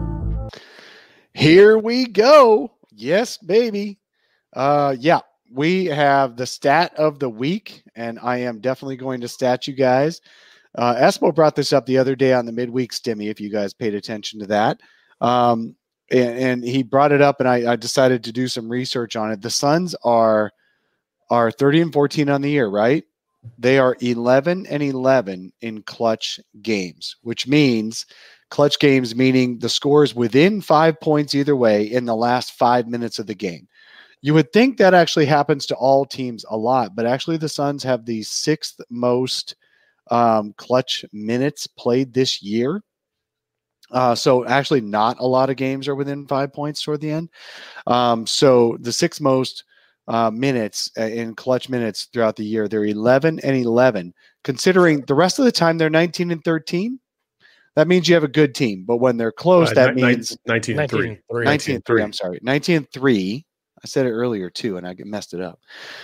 Here we go. Yes, baby. Yeah, we have the stat of the week, and I am definitely going to stat you guys. Espo brought this up the other day on the midweek stimmy, if you guys paid attention to that. And he brought it up, and I decided to do some research on it. The Suns are 30-14 on the year, right? They are 11-11 in clutch games, which means clutch games, meaning the score is within 5 points either way in the last 5 minutes of the game. You would think that actually happens to all teams a lot, but actually the Suns have the 6th most clutch minutes played this year. So actually not a lot of games are within 5 points toward the end. So the 6th most minutes in clutch minutes throughout the year, they're 11-11. Considering the rest of the time they're 19-13, that means you have a good team. But when they're close, that means
19-3.
19-3. I'm sorry, 19-3. I said it earlier too, and I messed it up.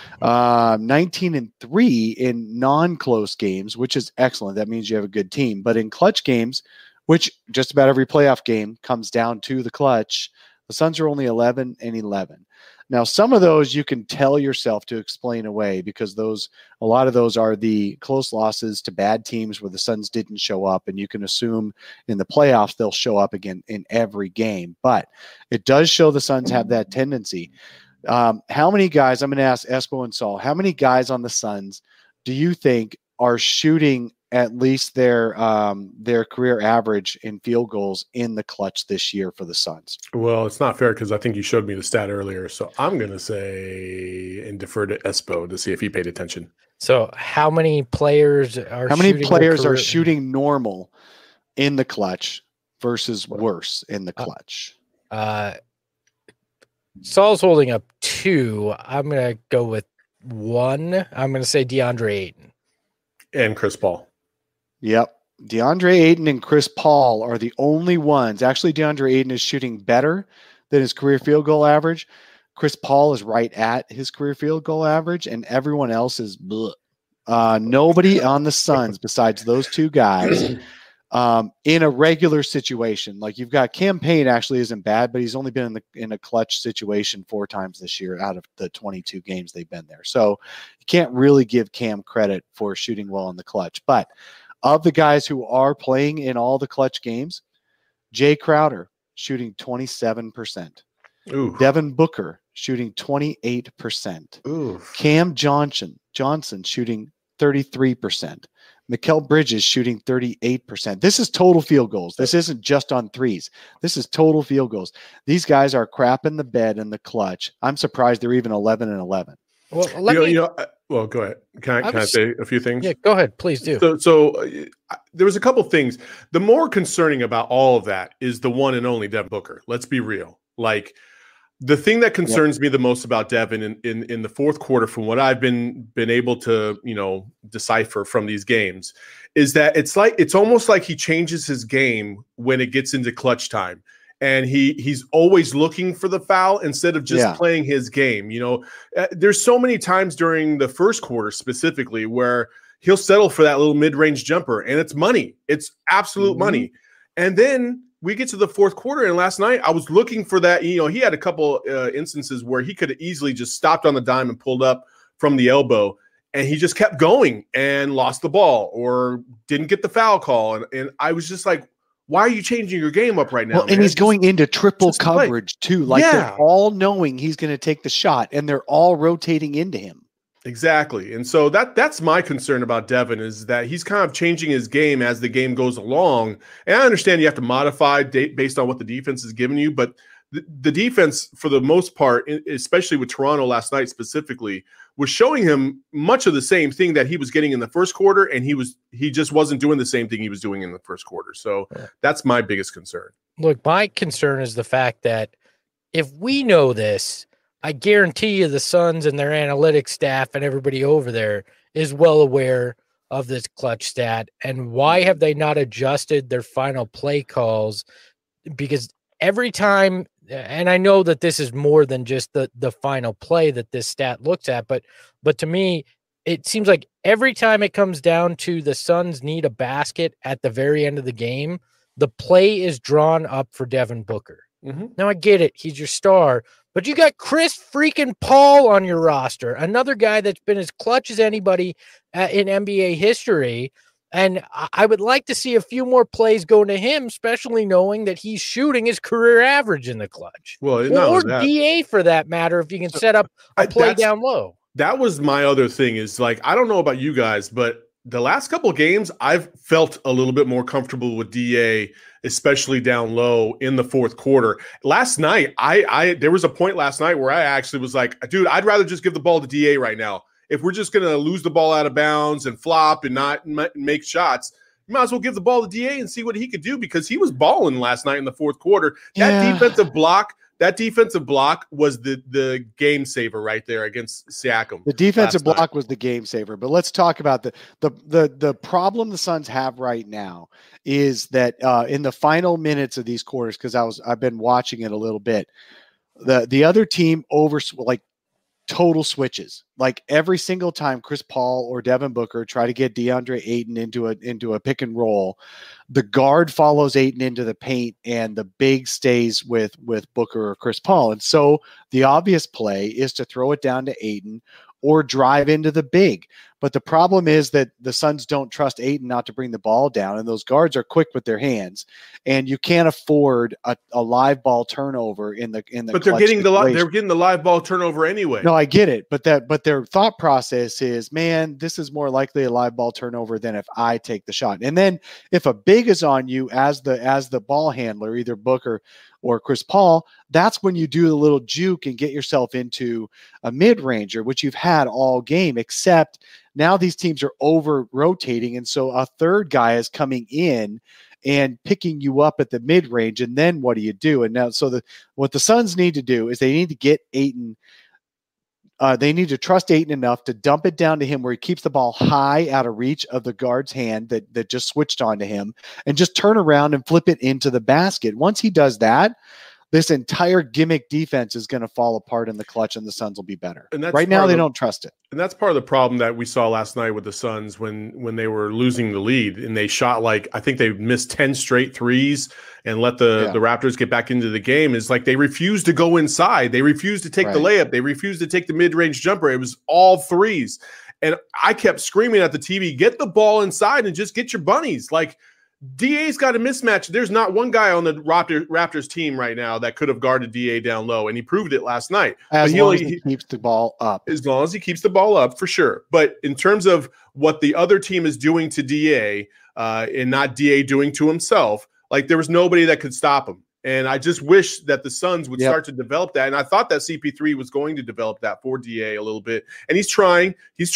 19-3 in non-close games, which is excellent. That means you have a good team. But in clutch games, which just about every playoff game comes down to the clutch, the Suns are only 11-11. Now, some of those you can tell yourself to explain away because a lot of those are the close losses to bad teams where the Suns didn't show up, and you can assume in the playoffs they'll show up again in every game. But it does show the Suns have that tendency. How many guys, I'm going to ask Espo and Saul, how many guys on the Suns do you think are shooting at least their career average in field goals in the clutch this year for the Suns?
Well, it's not fair because I think you showed me the stat earlier. So I'm going to say and defer to Espo to see if he paid attention.
So how many players are
shooting normal in the clutch versus worse in the clutch?
Saul's holding up 2. I'm going to go with 1. I'm going to say DeAndre Ayton.
And Chris Paul.
Yep. DeAndre Ayton and Chris Paul are the only ones. Actually, DeAndre Ayton is shooting better than his career field goal average. Chris Paul is right at his career field goal average, and everyone else is bleh. Nobody on the Suns besides those 2 guys in a regular situation. Like you've got Cam Payne actually isn't bad, but he's only been in a clutch situation 4 times this year out of the 22 games they've been there. So you can't really give Cam credit for shooting well in the clutch. But of the guys who are playing in all the clutch games, Jay Crowder shooting 27%.
Ooh.
Devin Booker shooting 28%.
Ooh.
Cam Johnson shooting 33%. Mikal Bridges shooting 38%. This is total field goals. This isn't just on threes. This is total field goals. These guys are crapping the bed in the clutch. I'm surprised they're even 11-11.
Well,
well, go ahead. Can I say a few things?
Yeah, go ahead. Please do.
So there was a couple things. The more concerning about all of that is the one and only Devin Booker. Let's be real. Like the thing that concerns me the most about Devin in the fourth quarter, from what I've been able to decipher from these games, is that it's almost like he changes his game when it gets into clutch time. And he's always looking for the foul instead of just playing his game. There's so many times during the first quarter specifically where he'll settle for that little mid-range jumper, and it's money. It's absolute money. And then we get to the fourth quarter, and last night I was looking for that. He had a couple instances where he could have easily just stopped on the dime and pulled up from the elbow, and he just kept going and lost the ball or didn't get the foul call. And I was just like, why are you changing your game up right now?
Well, and he's going into triple coverage too. Like they're all knowing he's going to take the shot, and they're all rotating into him.
Exactly. And so that's my concern about Devin, is that he's kind of changing his game as the game goes along. And I understand you have to modify based on what the defense is giving you, but the defense, for the most part, especially with Toronto last night specifically, was showing him much of the same thing that he was getting in the first quarter, and he just wasn't doing the same thing he was doing in the first quarter. So that's my biggest concern.
Look, my concern is the fact that if we know this, I guarantee you the Suns and their analytics staff and everybody over there is well aware of this clutch stat. And why have they not adjusted their final play calls? Because every time, and I know that this is more than just the final play that this stat looks at, but to me, it seems like every time it comes down to the Suns need a basket at the very end of the game, the play is drawn up for Devin Booker. Mm-hmm. Now I get it. He's your star, but you got Chris freaking Paul on your roster, another guy that's been as clutch as anybody in NBA history. And I would like to see a few more plays go to him, especially knowing that he's shooting his career average in the clutch.
Well,
or DA for that matter, if you can set up a play down low.
That was my other thing, is like, I don't know about you guys, but the last couple of games, I've felt a little bit more comfortable with DA, especially down low in the fourth quarter. Last night, there was a point last night where I actually was like, dude, I'd rather just give the ball to DA right now. If we're just going to lose the ball out of bounds and flop and not make shots, you might as well give the ball to DA and see what he could do, because he was balling last night in the fourth quarter. That defensive block was the game saver right there against Siakam.
The defensive block was the game saver. But let's talk about the problem the Suns have right now is that in the final minutes of these quarters, because I've been watching it a little bit, the other team total switches. Like every single time Chris Paul or Devin Booker try to get DeAndre Ayton into a pick and roll, the guard follows Ayton into the paint and the big stays with Booker or Chris Paul. And so the obvious play is to throw it down to Ayton or drive into the big. But the problem is that the Suns don't trust Ayton not to bring the ball down, and those guards are quick with their hands, and you can't afford a live ball turnover in the.
But they're getting the live ball turnover anyway.
No, I get it, but their thought process is, man, this is more likely a live ball turnover than if I take the shot. And then if a big is on you as the ball handler, either Booker or Chris Paul, that's when you do the little juke and get yourself into a mid-ranger, which you've had all game, except now these teams are over-rotating, and so a third guy is coming in and picking you up at the mid-range, and then what do you do? And now, what the Suns need to do is they need to get Ayton they need to trust Ayton enough to dump it down to him where he keeps the ball high out of reach of the guard's hand that just switched onto him, and just turn around and flip it into the basket. Once he does that, this entire gimmick defense is going to fall apart in the clutch, and the Suns will be better. And right now, they don't trust it.
And that's part of the problem that we saw last night with the Suns when they were losing the lead, and they shot I think they missed 10 straight threes and let the Raptors get back into the game. Is like they refused to go inside. They refused to take the layup. They refused to take the mid-range jumper. It was all threes. And I kept screaming at the TV, get the ball inside and just get your bunnies. Like, DA's got a mismatch. There's not one guy on the Raptors team right now that could have guarded DA down low, and he proved it last night.
As long as he keeps the ball up.
As long as he keeps the ball up, for sure. But in terms of what the other team is doing to DA and not DA doing to himself, like there was nobody that could stop him. And I just wish that the Suns would start to develop that. And I thought that CP3 was going to develop that for DA a little bit. And he's trying.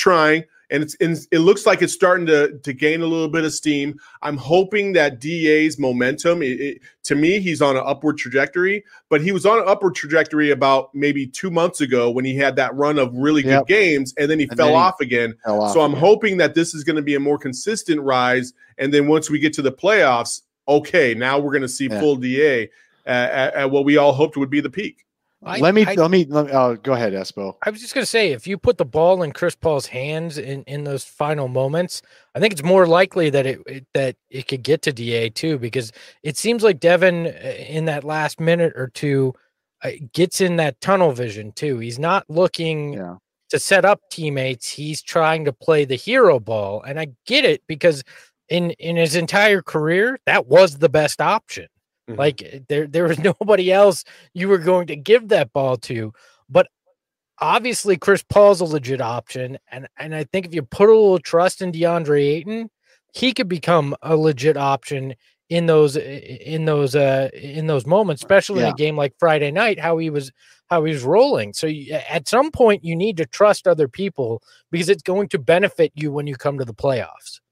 And it looks like it's starting to gain a little bit of steam. I'm hoping that DA's momentum, to me, he's on an upward trajectory, but he was on an upward trajectory about maybe 2 months ago when he had that run of really good games, and then he fell off again. So I'm hoping that this is going to be a more consistent rise. And then once we get to the playoffs, okay, now we're going to see full DA at what we all hoped would be the peak.
Let me go ahead, Espo.
I was just going to say, if you put the ball in Chris Paul's hands in those final moments, I think it's more likely that it could get to DA too, because it seems like Devin in that last minute or two gets in that tunnel vision too. He's not looking to set up teammates. He's trying to play the hero ball. And I get it, because in his entire career, that was the best option. Like there was nobody else you were going to give that ball to. But obviously Chris Paul's a legit option, and I think if you put a little trust in DeAndre Ayton, he could become a legit option in those moments, especially in a game like Friday night, how he was rolling. So at some point you need to trust other people because it's going to benefit you when you come to the playoffs.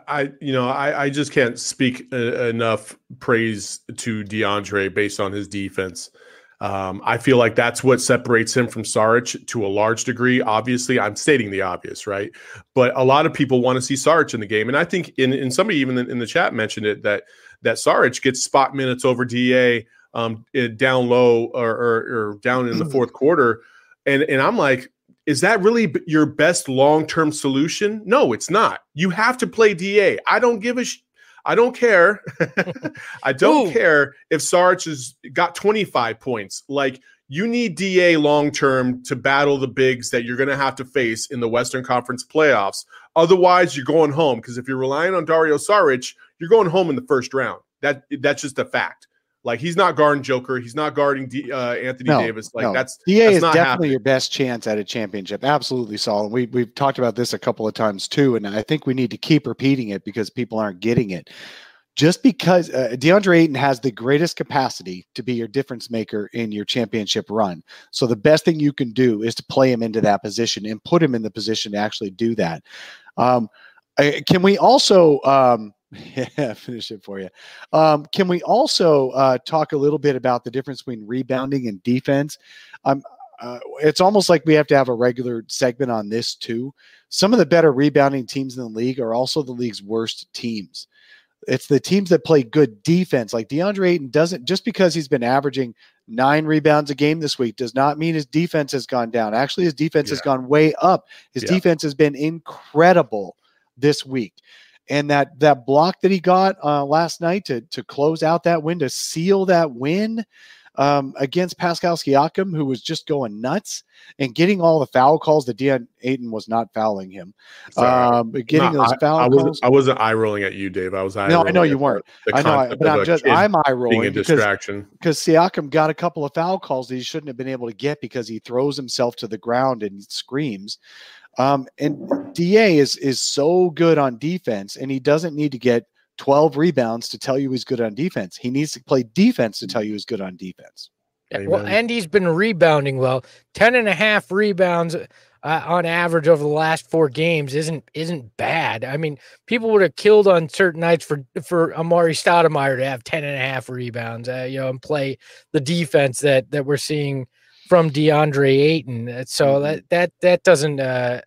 I just can't speak enough praise to DeAndre based on his defense. I feel like that's what separates him from Saric to a large degree. Obviously, I'm stating the obvious, right? But a lot of people want to see Saric in the game. And I think in somebody even in the chat mentioned it, that Saric gets spot minutes over DA down low or down in the fourth quarter. And I'm like, is that really your best long-term solution? No, it's not. You have to play DA. I don't give a I don't care. I don't care if Saric has got 25 points. Like, you need DA long-term to battle the bigs that you're going to have to face in the Western Conference playoffs. Otherwise, you're going home, because if you're relying on Dario Saric, you're going home in the first round. That's just a fact. Like, he's not guarding Joker. He's not guarding Anthony Davis. Like, that's
DA is
not
definitely
happening.
your best chance at a championship. Absolutely, Saul. We've talked about this a couple of times too, and I think we need to keep repeating it because people aren't getting it. Just because DeAndre Ayton has the greatest capacity to be your difference maker in your championship run. So the best thing you can do is to play him into that position and put him in the position to actually do that. Can we also finish it for you? Can we also talk a little bit about the difference between rebounding and defense? It's almost like we have to have a regular segment on this too. Some of the better rebounding teams in the league are also the league's worst teams. It's the teams that play good defense. Like, DeAndre Ayton doesn't, just because he's been averaging 9 rebounds a game this week does not mean his defense has gone down. Actually, his defense has gone way up. His defense has been incredible this week. And that block that he got last night to close out that win, to seal that win against Pascal Siakam, who was just going nuts, and getting all the foul calls that DeAndre Ayton was not fouling him. Getting those foul calls.
I wasn't eye rolling at you, Dave. I was eye
No,
rolling.
I know you weren't. I know, but I'm eye rolling
being a distraction
because Siakam got a couple of foul calls that he shouldn't have been able to get because he throws himself to the ground and screams. And DA is so good on defense, and he doesn't need to get 12 rebounds to tell you he's good on defense. He needs to play defense to tell you he's good on defense.
Well, and he's been rebounding well. 10.5 rebounds on average over the last 4 games isn't bad. I mean, people would have killed on certain nights for Amari Stoudemire to have 10.5 rebounds, and play the defense that we're seeing from DeAndre Ayton. So that doesn't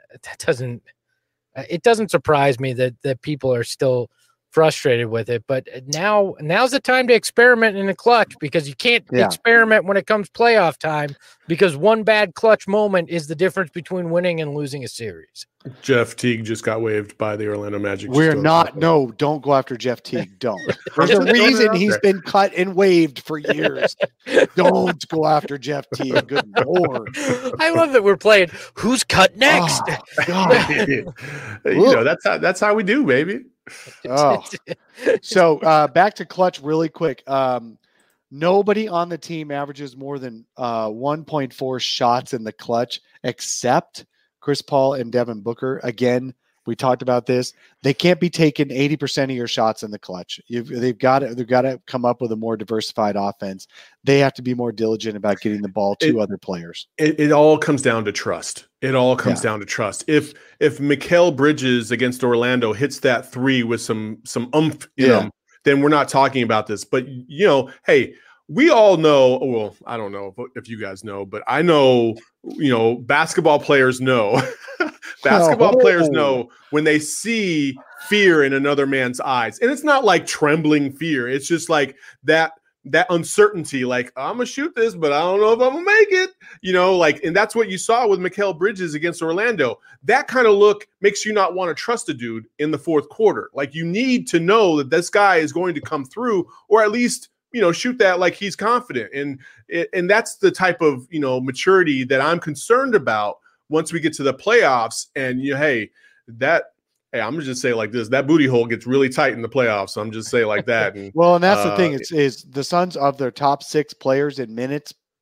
it doesn't surprise me that people are still frustrated with it. But now's the time to experiment in the clutch, because you can't experiment when it comes playoff time, because one bad clutch moment is the difference between winning and losing a series.
Jeff Teague just got waived by the Orlando Magic.
Don't go after Jeff Teague. Don't. There's a reason he's been cut and waived for years. Don't go after Jeff Teague. Good Lord.
I love that we're playing who's cut next.
Oh, God.
That's how we do, baby.
Oh. So back to clutch really quick. Nobody on the team averages more than 1.4 shots in the clutch except Chris Paul and Devin Booker. Again, we talked about this. They can't be taking 80% of your shots in the clutch. They've got to come up with a more diversified offense. They have to be more diligent about getting the ball to other players.
It all comes down to trust. It all comes down to trust. If Mikal Bridges against Orlando hits that 3 with some oomph in him, then we're not talking about this. But, hey, we all know, well, I don't know if you guys know, but I know, basketball players know. Players know when they see fear in another man's eyes. And it's not like trembling fear. It's just like that uncertainty, like, I'm going to shoot this, but I don't know if I'm going to make it. And that's what you saw with Mikal Bridges against Orlando. That kind of look makes you not want to trust a dude in the fourth quarter. Like, you need to know that this guy is going to come through, or at least, shoot that like he's confident. And that's the type of, maturity that I'm concerned about once we get to the playoffs. And, I'm going to just say it like this, that booty hole gets really tight in the playoffs. So I'm just saying like that. And,
well, and that's the thing is the Suns, of their top 6 players in minutes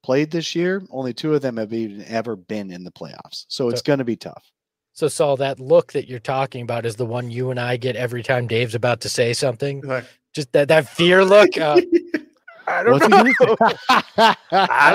played this year, only 2 of them have even ever been in the playoffs. So it's going to be tough.
So Saul, that look that you're talking about is the one you and I get every time Dave's about to say something. Just that fear look. I don't know. I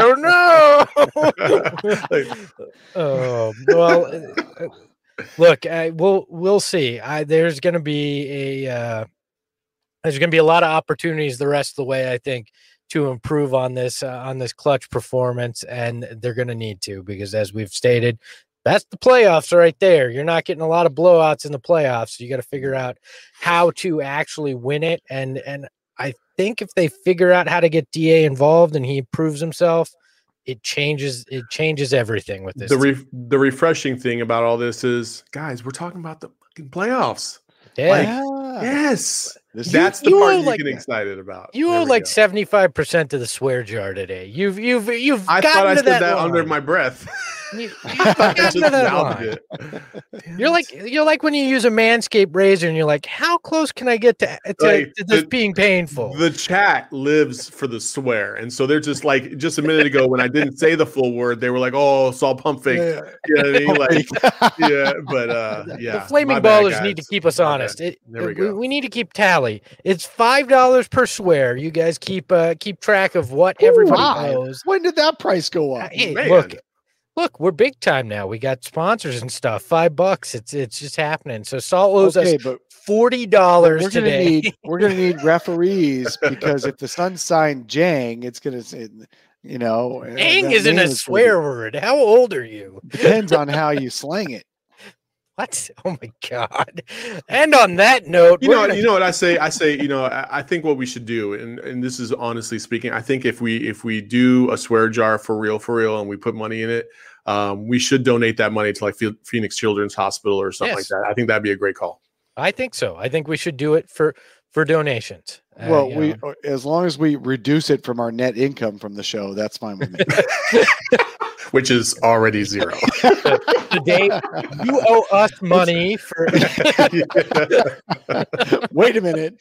don't know. Look, we'll see. There's going to be a lot of opportunities the rest of the way, I think, to improve on this clutch performance, and they're going to need to, because as we've stated, that's the playoffs right there. You're not getting a lot of blowouts in the playoffs. So you got to figure out how to actually win it. And I think if they figure out how to get DA involved and he proves himself, it changes everything with this.
The refreshing thing about all this is, guys, we're talking about the fucking playoffs.
Yeah.
Yes. That's the part you get excited about.
You owe like 75% of the swear jar today. You've
I thought I said that under my breath.
You've gotten to that line. You're like when you use a Manscaped razor and you're like, how close can I get to this being painful?
The chat lives for the swear, and so they're just like, just a minute ago when I didn't say the full word, they were like, "Oh, Saul pump fake."
Yeah.
You know what I mean? Like, yeah, but
the flaming ballers need to keep us honest.
There we go.
We need to keep tally. It's $5 per swear. You guys keep track of what everybody owes.
When did that price go up?
Hey, look, we're big time now. We got sponsors and stuff. $5. It's just happening. So Saul owes us $40 today.
We're gonna need referees, because if the Suns sign Jang, it's gonna say,
Jang isn't a swear word. How old are you?
Depends on how you slang it.
What? Oh my God! And on that note,
you know what I say? I think what we should do, and this is honestly speaking, I think if we do a swear jar for real, and we put money in it, we should donate that money to like Phoenix Children's Hospital or something like that. I think that'd be a great call.
I think so. I think we should do it for donations.
Well, as long as we reduce it from our net income from the show, that's fine with me.
Which is already zero.
Today, you owe us money for.
Wait a minute.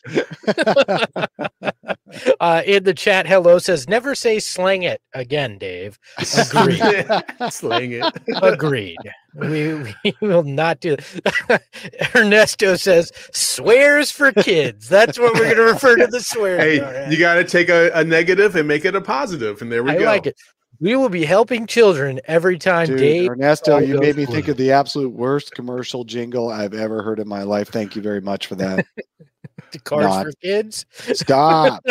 In the chat, hello says, never say slang it again, Dave. Agreed.
Slang it.
Agreed. We will not do that. Ernesto says, swears for kids. That's what we're going to refer to the swear.
Hey, you got to take a negative and make it a positive, and there we go.
I like it. We will be helping children every time.
Dude,
Dave.
Ernesto, you made me think of the absolute worst commercial jingle I've ever heard in my life. Thank you very much for that.
The Cars for Kids.
Stop.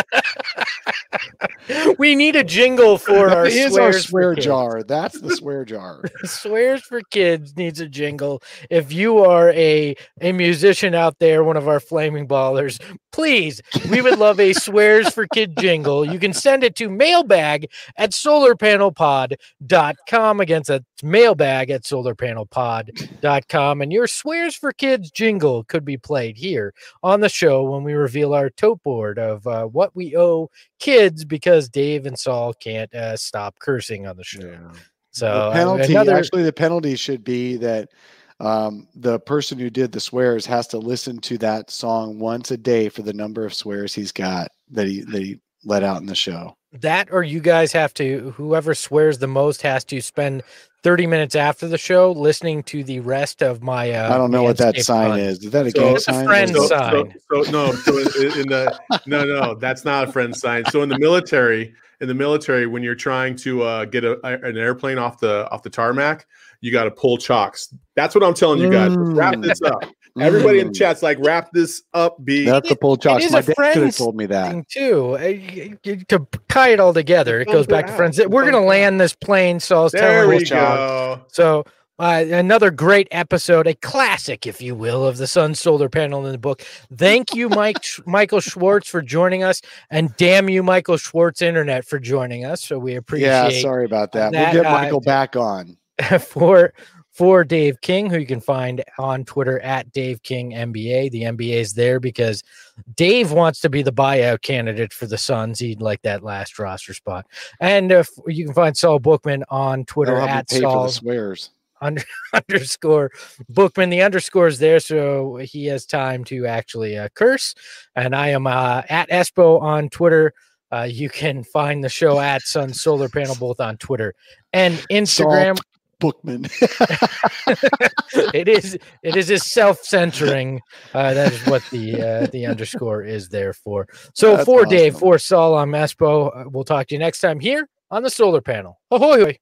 We need a jingle for our
swear jar. That's the swear jar.
Swears for Kids needs a jingle. If you are a musician out there, one of our flaming ballers, please, we would love a Swears for Kid jingle. You can send it to mailbag@solarpanelpod.com. Again, that's mailbag@solarpanelpod.com. And your Swears for Kids jingle could be played here on the show when we reveal our tote board of what we owe kids, because Dave and Saul can't stop cursing on the show. Yeah. So
the penalty should be that the person who did the swears has to listen to that song once a day for the number of swears he's got that he let out in the show.
That, or you guys have to, whoever swears the most has to spend 30 minutes after the show listening to the rest of my
I don't know what that sign is. Is that a gang sign?
It's a friend sign.
No, that's not a friend sign. So in the military, when you're trying to get an airplane off the tarmac, you got to pull chocks. That's what I'm telling you guys. Wrap this up. Everybody in the chat's like, wrap this up, B.
That's the pull chocks. My dad could have told me that
too. To tie it all together, it goes back to friends. We're going to land this plane, so I was telling you.
Go.
So another great episode, a classic, if you will, of the Sun Solar Panel in the book. Thank you, Michael Schwartz, for joining us, and damn you, Michael Schwartz Internet, for joining us. So we appreciate.
Yeah, sorry about that. We'll get Michael back on.
For Dave King, who you can find on Twitter at Dave King NBA. The NBA is there because Dave wants to be the buyout candidate for the Suns. He'd like that last roster spot. And you can find Saul Bookman on Twitter at Saul
swears.
_Bookman. The underscore is there, so he has time to actually curse. And I am at Espo on Twitter. You can find the show at Sun Solar Panel both on Twitter and Instagram.
Salt Bookman.
It is a self-centering. That is what the underscore is there for. So
That's
for
awesome.
Dave, for Saul, I'm Espo. We'll talk to you next time here on the Solar Panel. Ahoy!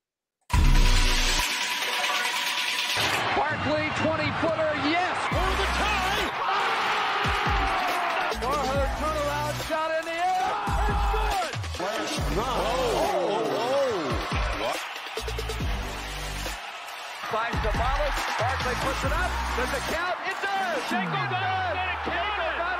Barkley, 20-footer, yes, for the tie. Warhurst turnaround shot in the air. It's good. Finds the Barkley puts it up. There's a count. It does. Shanko got it.